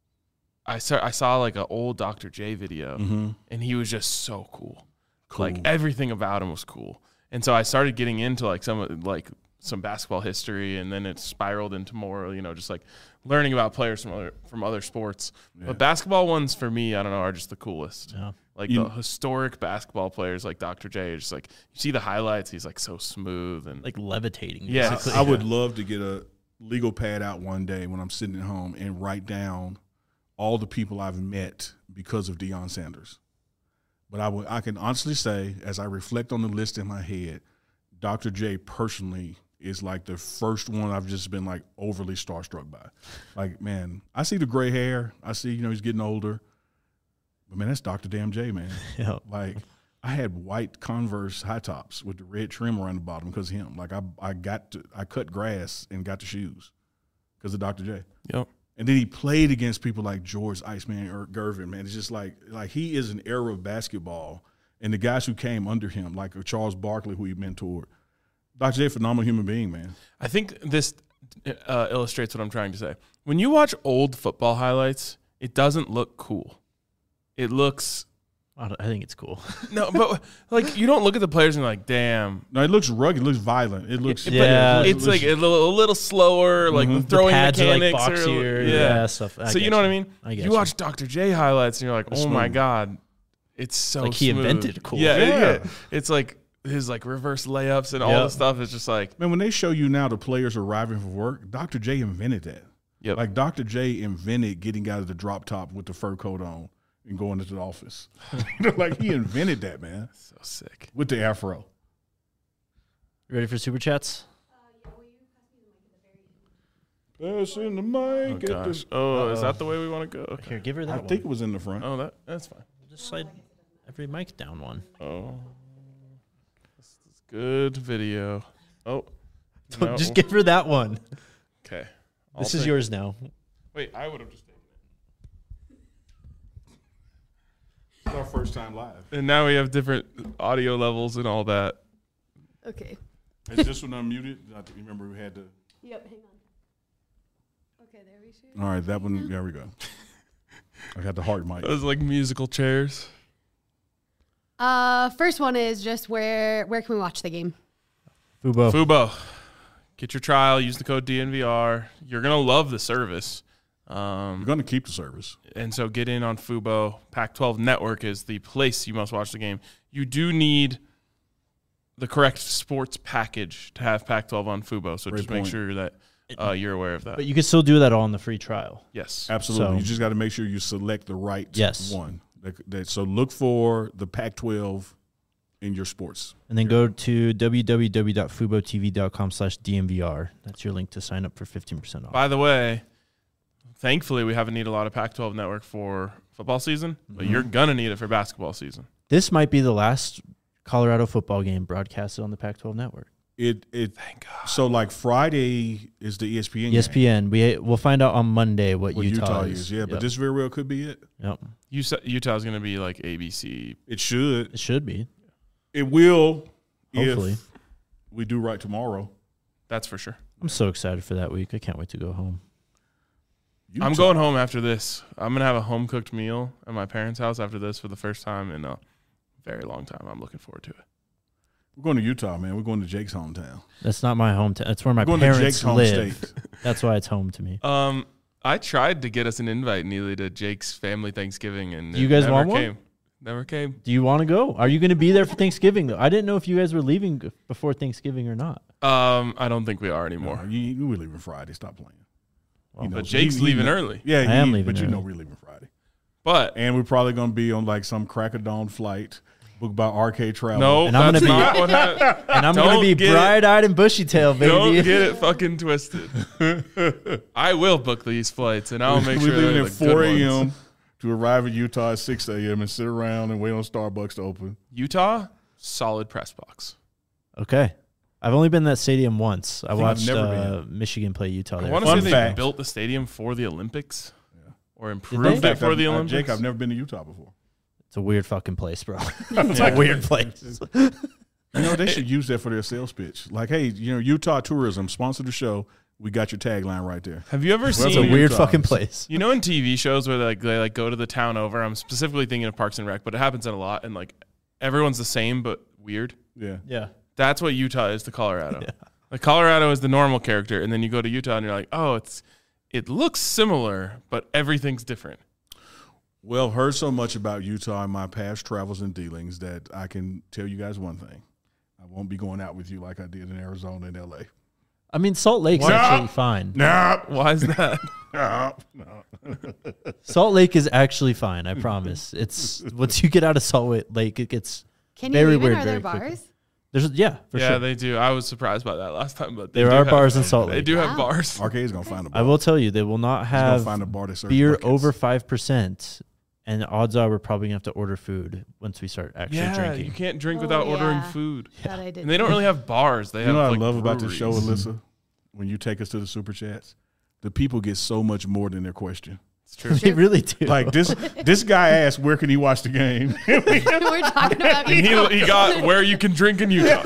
I start, I saw like an old Doctor J video, Mm-hmm. and he was just so cool. Cool. Like everything about him was cool. And so I started getting into like some of- like some basketball history, and then it spiraled into more, you know, just like learning about players from other from other sports. Yeah. But basketball ones for me, I don't know, are just the coolest. Yeah. Like You- the historic basketball players like Doctor J, is just like you see the highlights, he's like so smooth and Like levitating. Yeah. basically. I, I would love to get a legal pad out one day when I'm sitting at home and write down all the people I've met because of Deion Sanders. But I would, I can honestly say, as I reflect on the list in my head, Doctor J personally is like the first one I've just been like overly starstruck by. Like, man, I see the gray hair. I see, you know, he's getting older. But, man, that's Doctor Damn J, man. Yeah. Like, I had white Converse high tops with the red trim around the bottom because of him. Like, I I got to, I cut grass and got the shoes because of Doctor J. yep. And then he played against people like George Iceman or Gervin, man. It's just like like he is an era of basketball. And the guys who came under him, like Charles Barkley, who he mentored. Doctor J, phenomenal human being, man. I think this uh, illustrates what I'm trying to say. When you watch old football highlights, it doesn't look cool. It looks I, don't- I think it's cool. no, but like you don't look at the players and you're like, damn. No, it looks rugged. It looks violent. It looks. But Yeah. it it's looks- like a little, a little slower, like the Mhm. throwing the pads are like mechanics are, boxier. yeah. Yeah, stuff. I so you get know what I mean? I get you you. watch Doctor J highlights and you're like, It's oh my smooth. god, it's so Like he smooth. invented cool. Yeah, Yeah. yeah. It's like his like reverse layups and all Yep. the stuff is just like, Man, when they show you now the players arriving for work, Doctor J invented that. yep. Like Doctor J invented getting out of the drop top with the fur coat on and going into the office. Like he invented that, man, So sick. with the afro. You ready for super chats? Passing the mic. Oh at the- gosh. Oh, is Uh-oh. that the way we want to go? Okay. Here, give her that I one. think it was in the front. Oh, that that's fine. Just slide every mic down one. Oh, this is good video. Oh, no. Just give her that one. Okay. I'll This is take- yours now. Wait, I would have just taken it. It's our first time live. And now we have different audio levels and all that. Okay. Is this one unmuted? I remember we had to. Yep, hang on. Okay, there we should. All right, that one. There we go. I got the heart mic. Those like musical chairs. Uh, first one is just where where can we watch the game? Fubo. Fubo, get your trial. Use the code D N V R. You're gonna love the service. We're Um, going to keep the service. and so get in on Fubo. Pac twelve Network is the place you must watch the game. You do need the correct sports package to have Pac twelve on Fubo. So Great just make point. sure that uh, you're aware of that. But you can still do that all in the free trial. Yes. Absolutely. So- you just got to make sure you select the right Yes. one. That, that, so look for the Pac twelve in your sports. And then go to www.fubotv.com slash DMVR. That's your link to sign up for fifteen percent off. By the way, thankfully we haven't need a lot of Pac twelve Network for football season, but Mhm. you're gonna need it for basketball season. This might be the last Colorado football game broadcasted on the Pac twelve network. It it Thank God. so like Friday is the E S P N. E S P game, N. We we'll find out on Monday what, what Utah, Utah is. is. Yeah, but Yep. this very well could be it. Yep. You sa- Utah's gonna be like A B C. It should. It should be. It will. Hopefully. If we do right tomorrow. That's for sure. I'm so excited for that week. I can't wait to go home. I'm Utah- going home after this. I'm gonna have a home cooked meal at my parents' house after this for the first time in a very long time. I'm looking forward to it. We're going to Utah, man. We're going to Jake's hometown. That's not my hometown. That's where my We're going to parents Jake's home live. state. That's why it's home to me. Um, I tried to get us an invite, Neely, to Jake's family Thanksgiving, and Do you it guys never want one? came. Never came. Do you want to go? Are you going to be there for Thanksgiving, though? I didn't know if you guys were leaving g- before Thanksgiving or not. Um, I don't think we are anymore. No, you, you were leaving Friday. Stop playing. Well, He But knows- Jake's he- he leaving know- early. Yeah, I he- am leaving But you know early. we're leaving Friday. But And we're probably going to be on like some crack of dawn flight booked by R K Travel. no, And I'm that's gonna be- not what happened. And I'm going Don't to be get it- bright-eyed and bushy-tailed, baby. Don't get it fucking twisted. I will book these flights, and I'll make we're sure leaving they're at the good four ones. a.m. to arrive at Utah at six a.m. and sit around and wait on Starbucks to open. Utah, solid press box. Okay. I've only been to that stadium once. I think I've watched never uh, Michigan play Utah I there. want to Fun say fact. they built the stadium for the Olympics, Yeah. or they? improved In it fact, for I've- the uh, Olympics. Jake, I've never been to Utah before. It's a weird fucking place, bro. It's a weird place. You know, they should use that for their sales pitch. Like, hey, you know, Utah Tourism, sponsor the show. We got your tagline right there. Have you ever Well, It's a seen? weird Utah. fucking place. You know, in T V shows where they like they like go to the town over. I'm specifically thinking of Parks and Rec, but it happens a lot, and like everyone's the same but weird. Yeah. Yeah. That's what Utah is to Colorado. Yeah. Like Colorado is the normal character, and then you go to Utah and you're like, oh, it's it looks similar, but everything's different. Well, heard so much about Utah in my past travels and dealings that I can tell you guys one thing. I won't be going out with you like I did in Arizona and L A. I mean, Salt Lake's What? actually fine. No, Why is that? no, no. Salt Lake is actually fine. I promise. It's once you get out of Salt Lake, it gets Can Very you even? weird, Are there very quickly. bars? there's yeah for yeah, sure. they do. I was surprised by that last time, but they There do are have- bars in Salt They Lake. do have Wow. bars. Arcade's gonna find a bar. I will tell you, they will not He's gonna have find a bar that serves beer buckets. over five percent, and odds are we're probably gonna have to order food once we start actually Yeah, drinking. you can't drink Oh, without ordering yeah. food. That I did. And they don't really have bars. They You have know what like I love about the show, breweries. Alyssa? When you take us to the super chats, the people get so much more than their question. It's true. They really do. Like this, this guy asked, "Where can he watch the game?" We're talking about And Utah. he, he got where you can drink in Utah.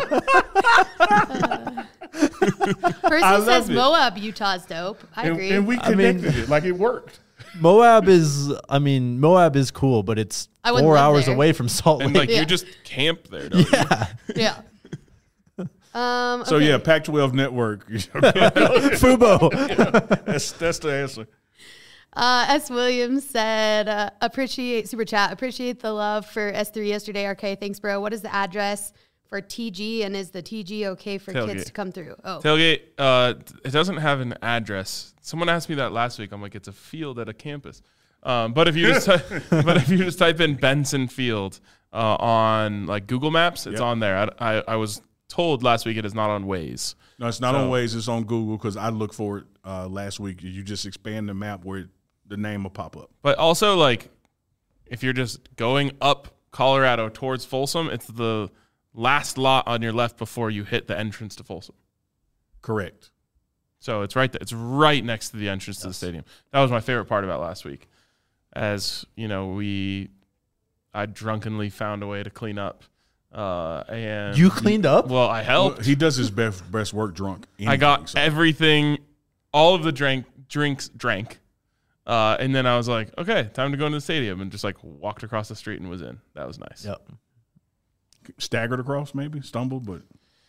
Person I love says it. Moab, Utah's dope. I and, agree. and we I mean- connected it like it worked. Moab is, I mean, Moab is cool, but it's I wouldn't four live hours there. away from Salt And Lake. like Yeah. you just camp there. Don't you? yeah, yeah. Um, So okay. yeah, Pac twelve network. Fubo. that's that's the answer. Uh, S. Williams said, uh, appreciate super chat. Appreciate the love for S three yesterday. R K, thanks, bro. What is the address for T G, and is the T G okay for Tailgate. kids to come through? Oh, Tailgate. Uh, it doesn't have an address. Someone asked me that last week. I'm like, it's a field at a campus. Um, but if you just ty- but if you just type in Benson Field uh, on like Google Maps, it's Yep. on there. I, I I was told last week it is not on Waze. No, it's not So- on Waze. It's on Google because I looked for it uh, last week. You just expand the map where it, the name will pop up. But also, like, if you're just going up Colorado towards Folsom, it's the last lot on your left before you hit the entrance to Folsom. Correct. So it's right there. It's right next to the entrance yes. to the stadium. That was my favorite part about last week. As, you know, we I drunkenly found a way to clean up. Uh, and You cleaned up? Well, I helped. Well, he does his best best work drunk. Anything, I got so. everything, all of the drink drinks drank. Uh, and then I was like, okay, time to go into the stadium, and just like walked across the street and was in. That was nice. Yep. Staggered across, maybe stumbled, but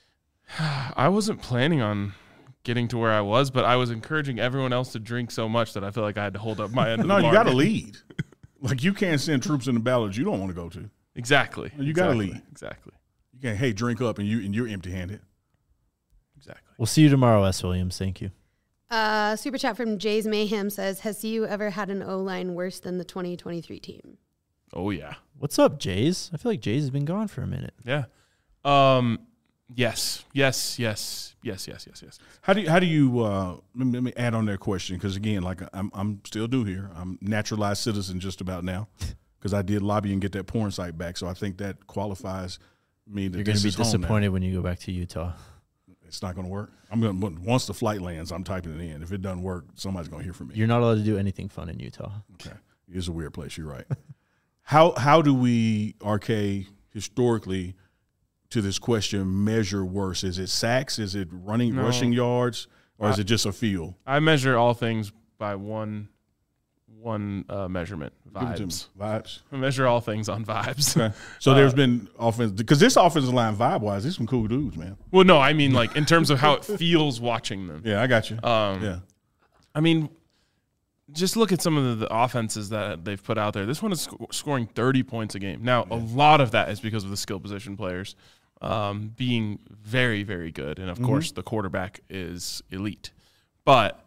I wasn't planning on getting to where I was, but I was encouraging everyone else to drink so much that I feel like I had to hold up my end. no, of the you got to bargain. lead. Like you can't send troops in the battles you don't want to go to. Exactly. You got to exactly. lead. Exactly. You can't. Hey, drink up, and you and you're empty handed. Exactly. We'll see you tomorrow, S. Williams. Thank you. Uh, super chat from Jay's Mayhem says, has C U ever had an O-line worse than the twenty twenty-three team? Oh yeah. What's up, Jays? I feel like Jays has been gone for a minute. Yeah. Um. Yes. Yes. Yes. Yes. Yes. Yes. Yes. How do you, how do you uh, let, me, let me add on that question because again, like I'm I'm still new here. I'm naturalized citizen just about now because I did lobby and get that porn site back. So I think that qualifies me. That You're going to this be is home now. disappointed when you go back to Utah. It's not going to work. I'm going to once the flight lands, I'm typing it in. If it doesn't work, somebody's going to hear from me. You're not allowed to do anything fun in Utah. Okay, it's a weird place. You're right. how how do we R K historically to this question measure worse? Is it sacks? Is it running No. rushing yards, or is I- it just a feel? I measure all things by one one uh, measurement. Give it to me. Vibes. Vibes. I measure all things on vibes. Okay. So there's been offense because this offensive line vibe wise, these some cool dudes, man. Well, no, I mean like in terms of how it feels watching them. Yeah, I got you. Um, yeah, I mean, just look at some of the, the offenses that they've put out there. This one is sc- scoring thirty points a game. Now, a lot of that is because of the skill position players um, being very, very good. And, of Mm-hmm. course, the quarterback is elite. But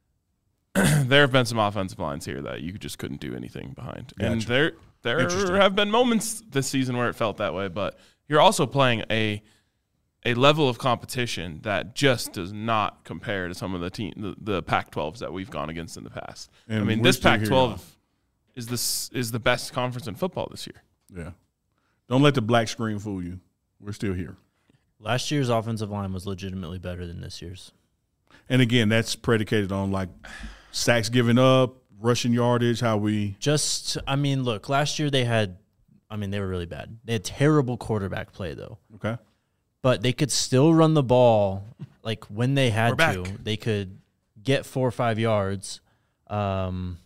there have been some offensive lines here that you just couldn't do anything behind. And Gotcha. there there Interesting. have been moments this season where it felt that way. But you're also playing a a level of competition that just does not compare to some of the team the, the Pac twelves that we've gone against in the past. And I mean, we're this still Pac here, twelve is this is the best conference in football this year. yeah. Don't let the black screen fool you. We're still here. Last year's offensive line was legitimately better than this year's. And again, that's predicated on like sacks given up, rushing yardage, how we. Just, I mean, look, last year they had, I mean, they were really bad. They had terrible quarterback play, though. Okay. But they could still run the ball, like, when they had We're back. to. They could get four or five yards. Um,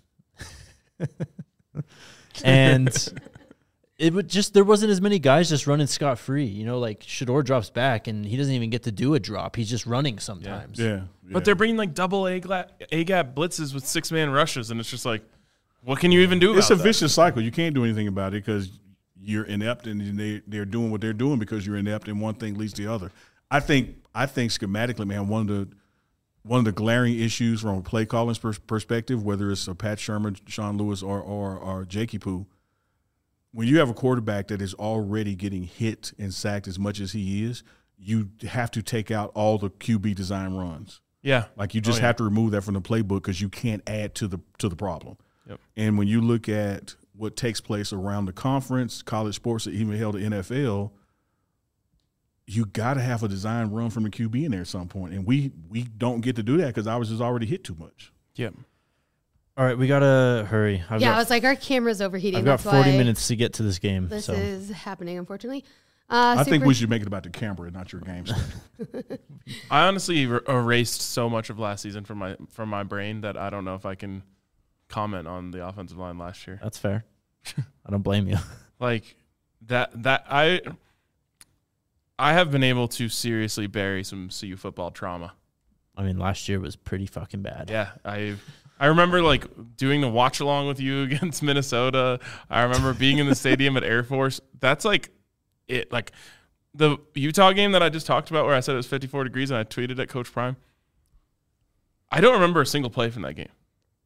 and it would just, there wasn't as many guys just running scot-free. You know, like, Shador drops back, and he doesn't even get to do a drop. He's just running sometimes. Yeah. yeah. But they're bringing like double A gap blitzes with six man rushes, and it's just like, what can you even do? It's a about that? vicious cycle. You can't do anything about it because you're inept, and they they're doing what they're doing because you're inept, and one thing leads to the other. I think I think schematically, man, one of the one of the glaring issues from a play calling pers- perspective, whether it's a Pat Sherman, Sean Lewis, or or or Jakey Poo, when you have a quarterback that is already getting hit and sacked as much as he is, you have to take out all the Q B design runs. Yeah, Like you just Oh, yeah. have to remove that from the playbook because you can't add to the to the problem. Yep. And when you look at what takes place around the conference, college sports, or even hell the N F L, you got to have a design run from the Q B in there at some point. And we we don't get to do that because ours is already hit too much. Yep. All right, we got to hurry. I've yeah, got, I was like, our camera's overheating. I've got That's forty why minutes to get to this game. This so. is happening, unfortunately. Uh, I think super- we should make it about the camera and not your game schedule. I honestly er- erased so much of last season from my from my brain that I don't know if I can comment on the offensive line last year. That's fair. I don't blame you. Like that that I I have been able to seriously bury some C U football trauma. I mean, last year was pretty fucking bad. Yeah, I I remember like doing the watch along with you against Minnesota. I remember being in the stadium at Air Force. That's like it. Like the Utah game that I just talked about, where I said it was fifty-four degrees, and I tweeted at Coach Prime. I don't remember a single play from that game.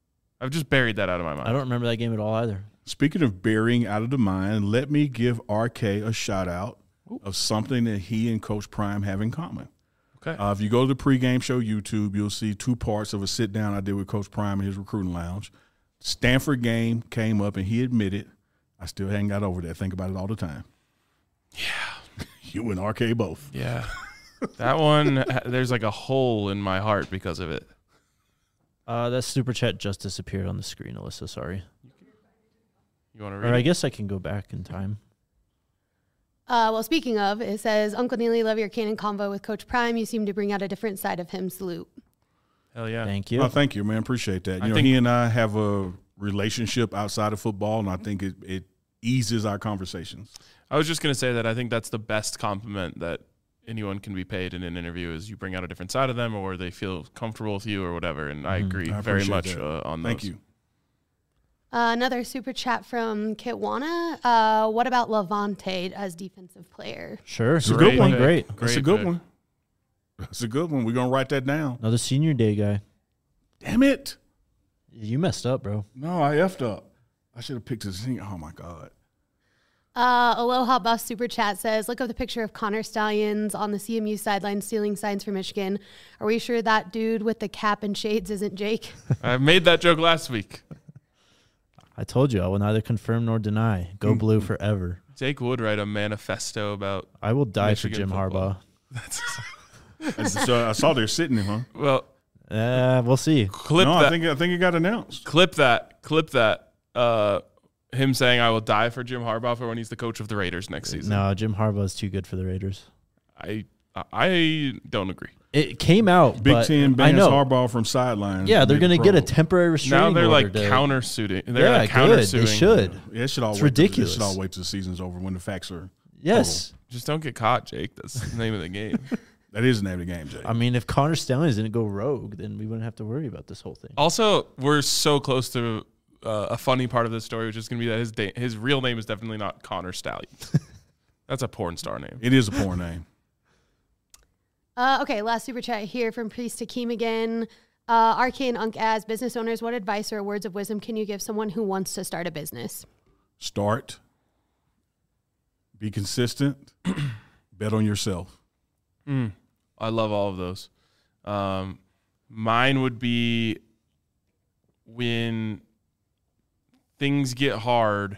I've just buried that out of my mind. I don't remember that game at all either. Speaking of burying out of the mind, let me give R K a shout out of something that he and Coach Prime have in common. Okay. Uh, if you go to the pregame show YouTube, you'll see two parts of a sit down I did with Coach Prime in his recruiting lounge. Stanford game came up, and he admitted, I still hadn't got over that. Think about it all the time. Yeah. You and R K both. Yeah. That one, there's like a hole in my heart because of it. Uh, that super chat just disappeared on the screen, Alyssa. Sorry. You want to read Or it? I guess I can go back in time. Uh, well, speaking of, it says, Uncle Neely, love your Canon convo with Coach Prime. You seem to bring out a different side of him. Salute. Hell yeah. Thank you. Oh, thank you, man. Appreciate that. You I know, think- he and I have a relationship outside of football, and I think it, it eases our conversations. I was just going to say that I think that's the best compliment that anyone can be paid in an interview is you bring out a different side of them or they feel comfortable with you or whatever. And I agree I very appreciate much that. uh, on Thank those. you. Uh, another super chat from Kitwana. Uh, what about Levante as defensive player? Sure. It's a Great good one. pick. Great. That's Great a good pick. one. That's a good one. We're going to write that down. Another senior day guy. Damn it. You messed up, bro. No, I effed up. I should have picked his thing. Oh, my God. Uh, Aloha Bus Super Chat says, look up the picture of Connor Stallions on the C M U sideline stealing signs for Michigan. Are we sure that dude with the cap and shades isn't Jake? I made that joke last week. I told you I will neither confirm nor deny. Go blue forever. Jake would write a manifesto about. I will die Michigan for Jim football. Harbaugh. so I saw they're sitting him, huh? Well, Uh, we'll see. clip no, that. I think I think it got announced. clip that. Clip that. Uh, him saying, I will die for Jim Harbaugh for when he's the coach of the Raiders next season. No, Jim Harbaugh is too good for the Raiders. I I don't agree. It came out, Big but Ten I bans know. Harbaugh from sidelines. Yeah, they're going to get a temporary Now restraining they're order. like to- counter-suiting. They're Yeah, like good. counter-suing. They should. Yeah, it should all It's wait till- ridiculous. it should all wait till the season's over when the facts are. Yes. Just don't get caught, Jake. That's the name of the game. That is the name of the game, Jay. I mean, if Connor Stallions didn't go rogue, then we wouldn't have to worry about this whole thing. Also, we're so close to uh, a funny part of this story, which is going to be that his da- his real name is definitely not Connor Stallion. That's a porn star name. It is a porn name. Uh, okay, last super chat here from Priest Hakeem again. Uh, R K and Unk, as business owners, what advice or words of wisdom can you give someone who wants to start a business? Start. Be consistent. Bet on yourself. Mm, I love all of those. Um, mine would be when things get hard,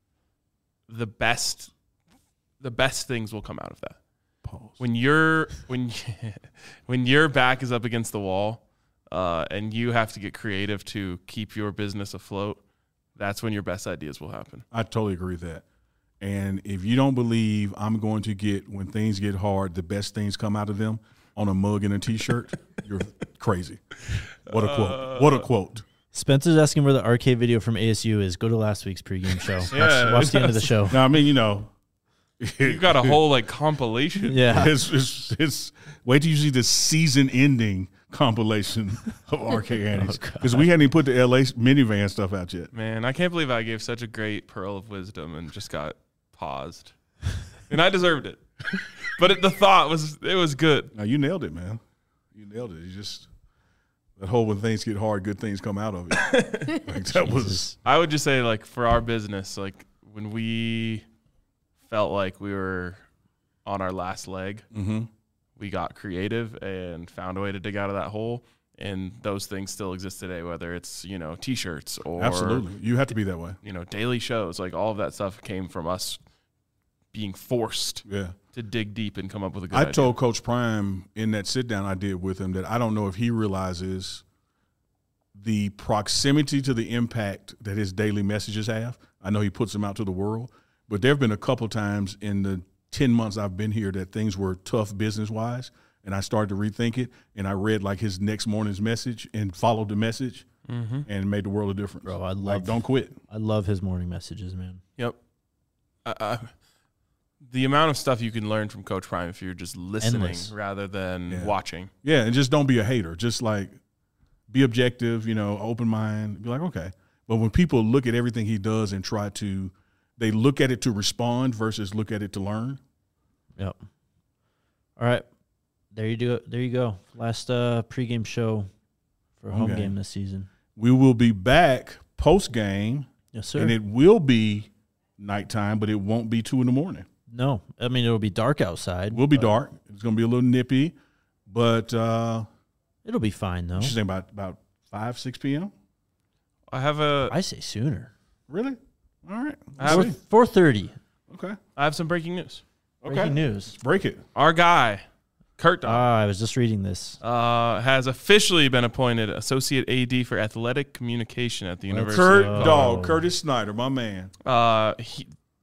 the best the best things will come out of that. Pause. When you're when when your back is up against the wall, uh, and you have to get creative to keep your business afloat, that's when your best ideas will happen. I totally agree with that. And if you don't believe I'm going to get, when things get hard, the best things come out of them on a mug and a T-shirt, you're crazy. What a quote. What a quote. Spencer's asking where the arcade video from A S U is. Go to last week's pregame show. Watch, Yeah. watch the end of the show. Now, I mean, you know. You got a whole like compilation. Yeah. It's, it's, it's, wait till you see the season-ending compilation of R K Annie's. Because we hadn't even put the L A minivan stuff out yet. Man, I can't believe I gave such a great pearl of wisdom and just got paused. And I deserved it. But it, the thought was, it was good. Now, you nailed it, man. You nailed it. You just, that whole when things get hard, good things come out of it. Like, that was, I would just say, like, for our business, like, when we felt like we were on our last leg, mm-hmm. we got creative and found a way to dig out of that hole. And those things still exist today, whether it's, you know, T-shirts or, Absolutely. You have to be that way. you know, daily shows. Like, all of that stuff came from us being forced Yeah. to dig deep and come up with a good I idea. told Coach Prime in that sit down I did with him that I don't know if he realizes the proximity to the impact that his daily messages have. I know he puts them out to the world, but there have been a couple times in the ten months I've been here that things were tough business wise, and I started to rethink it. And I read like his next morning's message and followed the message, Mm-hmm. and it made the world a difference. Bro, I like, love don't quit. I love his morning messages, man. Yep. Uh, uh, the amount of stuff you can learn from Coach Prime if you're just listening Endless. rather than Yeah. watching. Yeah, and just don't be a hater. Just like be objective, you know, open mind. Be like, okay. But when people look at everything he does and try to, they look at it to respond versus look at it to learn. Yep. All right. There you do. There you go. Last uh, pregame show for home Okay. game this season. We will be back post game, Yes, sir. and it will be nighttime, but it won't be two in the morning. No, I mean it'll be dark outside. It will be dark. It's going to be a little nippy, but uh, It'll be fine though. she's saying about about five, six p.m. I have a I say sooner. Really? All right. I have, Four thirty. Okay. I have some breaking news. Okay. Breaking news. Break it. Our guy, Kurt Dog, Ah, I was just reading this. uh, has officially been appointed Associate A D for Athletic Communication at the University. Kurt Oh. Dog, Curtis Snyder, my man. Uh, he,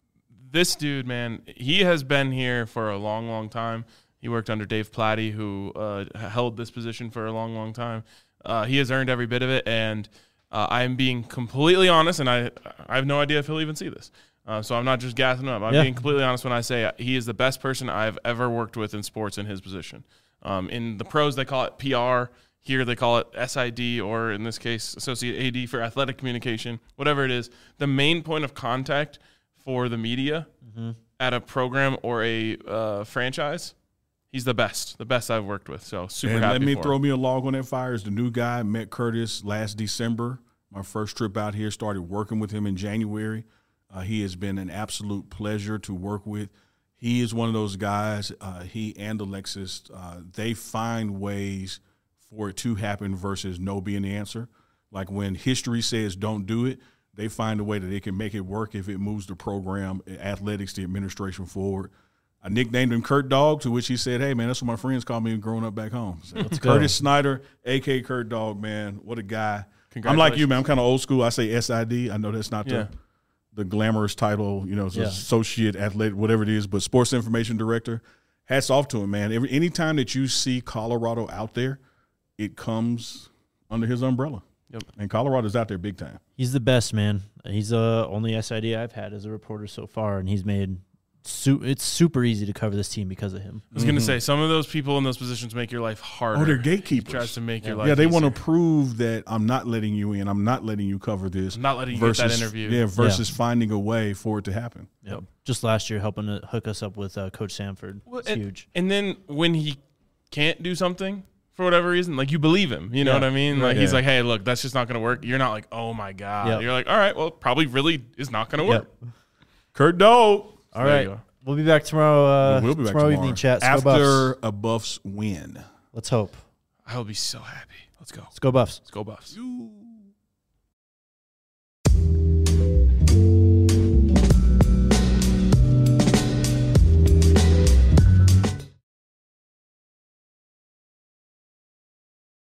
this dude, man, he has been here for a long, long time. He worked under Dave Platty, who uh, held this position for a long, long time. Uh, he has earned every bit of it, and uh, I'm being completely honest, and I I have no idea if he'll even see this. Uh, so I'm not just gassing him up. I'm Yeah. being completely honest when I say he is the best person I've ever worked with in sports in his position. Um, in the pros, they call it P R. Here they call it S I D, or in this case, Associate A D for Athletic Communication, whatever it is. The main point of contact for the media Mm-hmm. at a program or a uh, franchise, he's the best, the best I've worked with. So super And happy let me for throw him. me a log on that fire. As the new guy, met Curtis last December. My first trip out here, started working with him in January. Uh, he has been an absolute pleasure to work with. He is one of those guys, uh, he and Alexis, uh, they find ways for it to happen versus no being the answer. Like when history says don't do it, they find a way that they can make it work if it moves the program, athletics, the administration forward. I nicknamed him Kurt Dog, to which he said, hey, man, that's what my friends call me growing up back home. So go. Curtis Snyder, a k a. Kurt Dog, man. What a guy. I'm like you, man. I'm kind of old school. I say S I D. I know that's not Yeah. the, the glamorous title, you know, it's Yeah. associate athletic, whatever it is, but sports information director. Hats off to him, man. Every Anytime that you see Colorado out there, it comes under his umbrella. Yep. And Colorado's out there big time. He's the best, man. He's the only S I D I've had as a reporter so far, and he's made su- it's super easy to cover this team because of him. I was going to say, some of those people in those positions make your life harder. Oh, they're He gatekeepers. tries to make your life Yeah, they easier. want to prove that I'm not letting you in. I'm not letting you cover this. I'm not letting you versus, get that interview. Yeah, versus finding a way for it to happen. Yep. Just last year, helping to hook us up with uh, Coach Sanford. Well, It's and, huge. And then when he can't do something for whatever reason, like you believe him. You know Yeah. what I mean? Like Right. he's Yeah. like, hey, look, that's just not going to work. You're not like, oh my God. Yep. You're like, all right, well, it probably really is not going to work. Yep. Kurt Dog. All There right. you go. We'll be back tomorrow. Uh, we'll be back tomorrow, tomorrow evening chat. Let's after go Buffs. a Buffs win. Let's hope. I will be so happy. Let's go. Let's go Buffs. Let's go Buffs. You.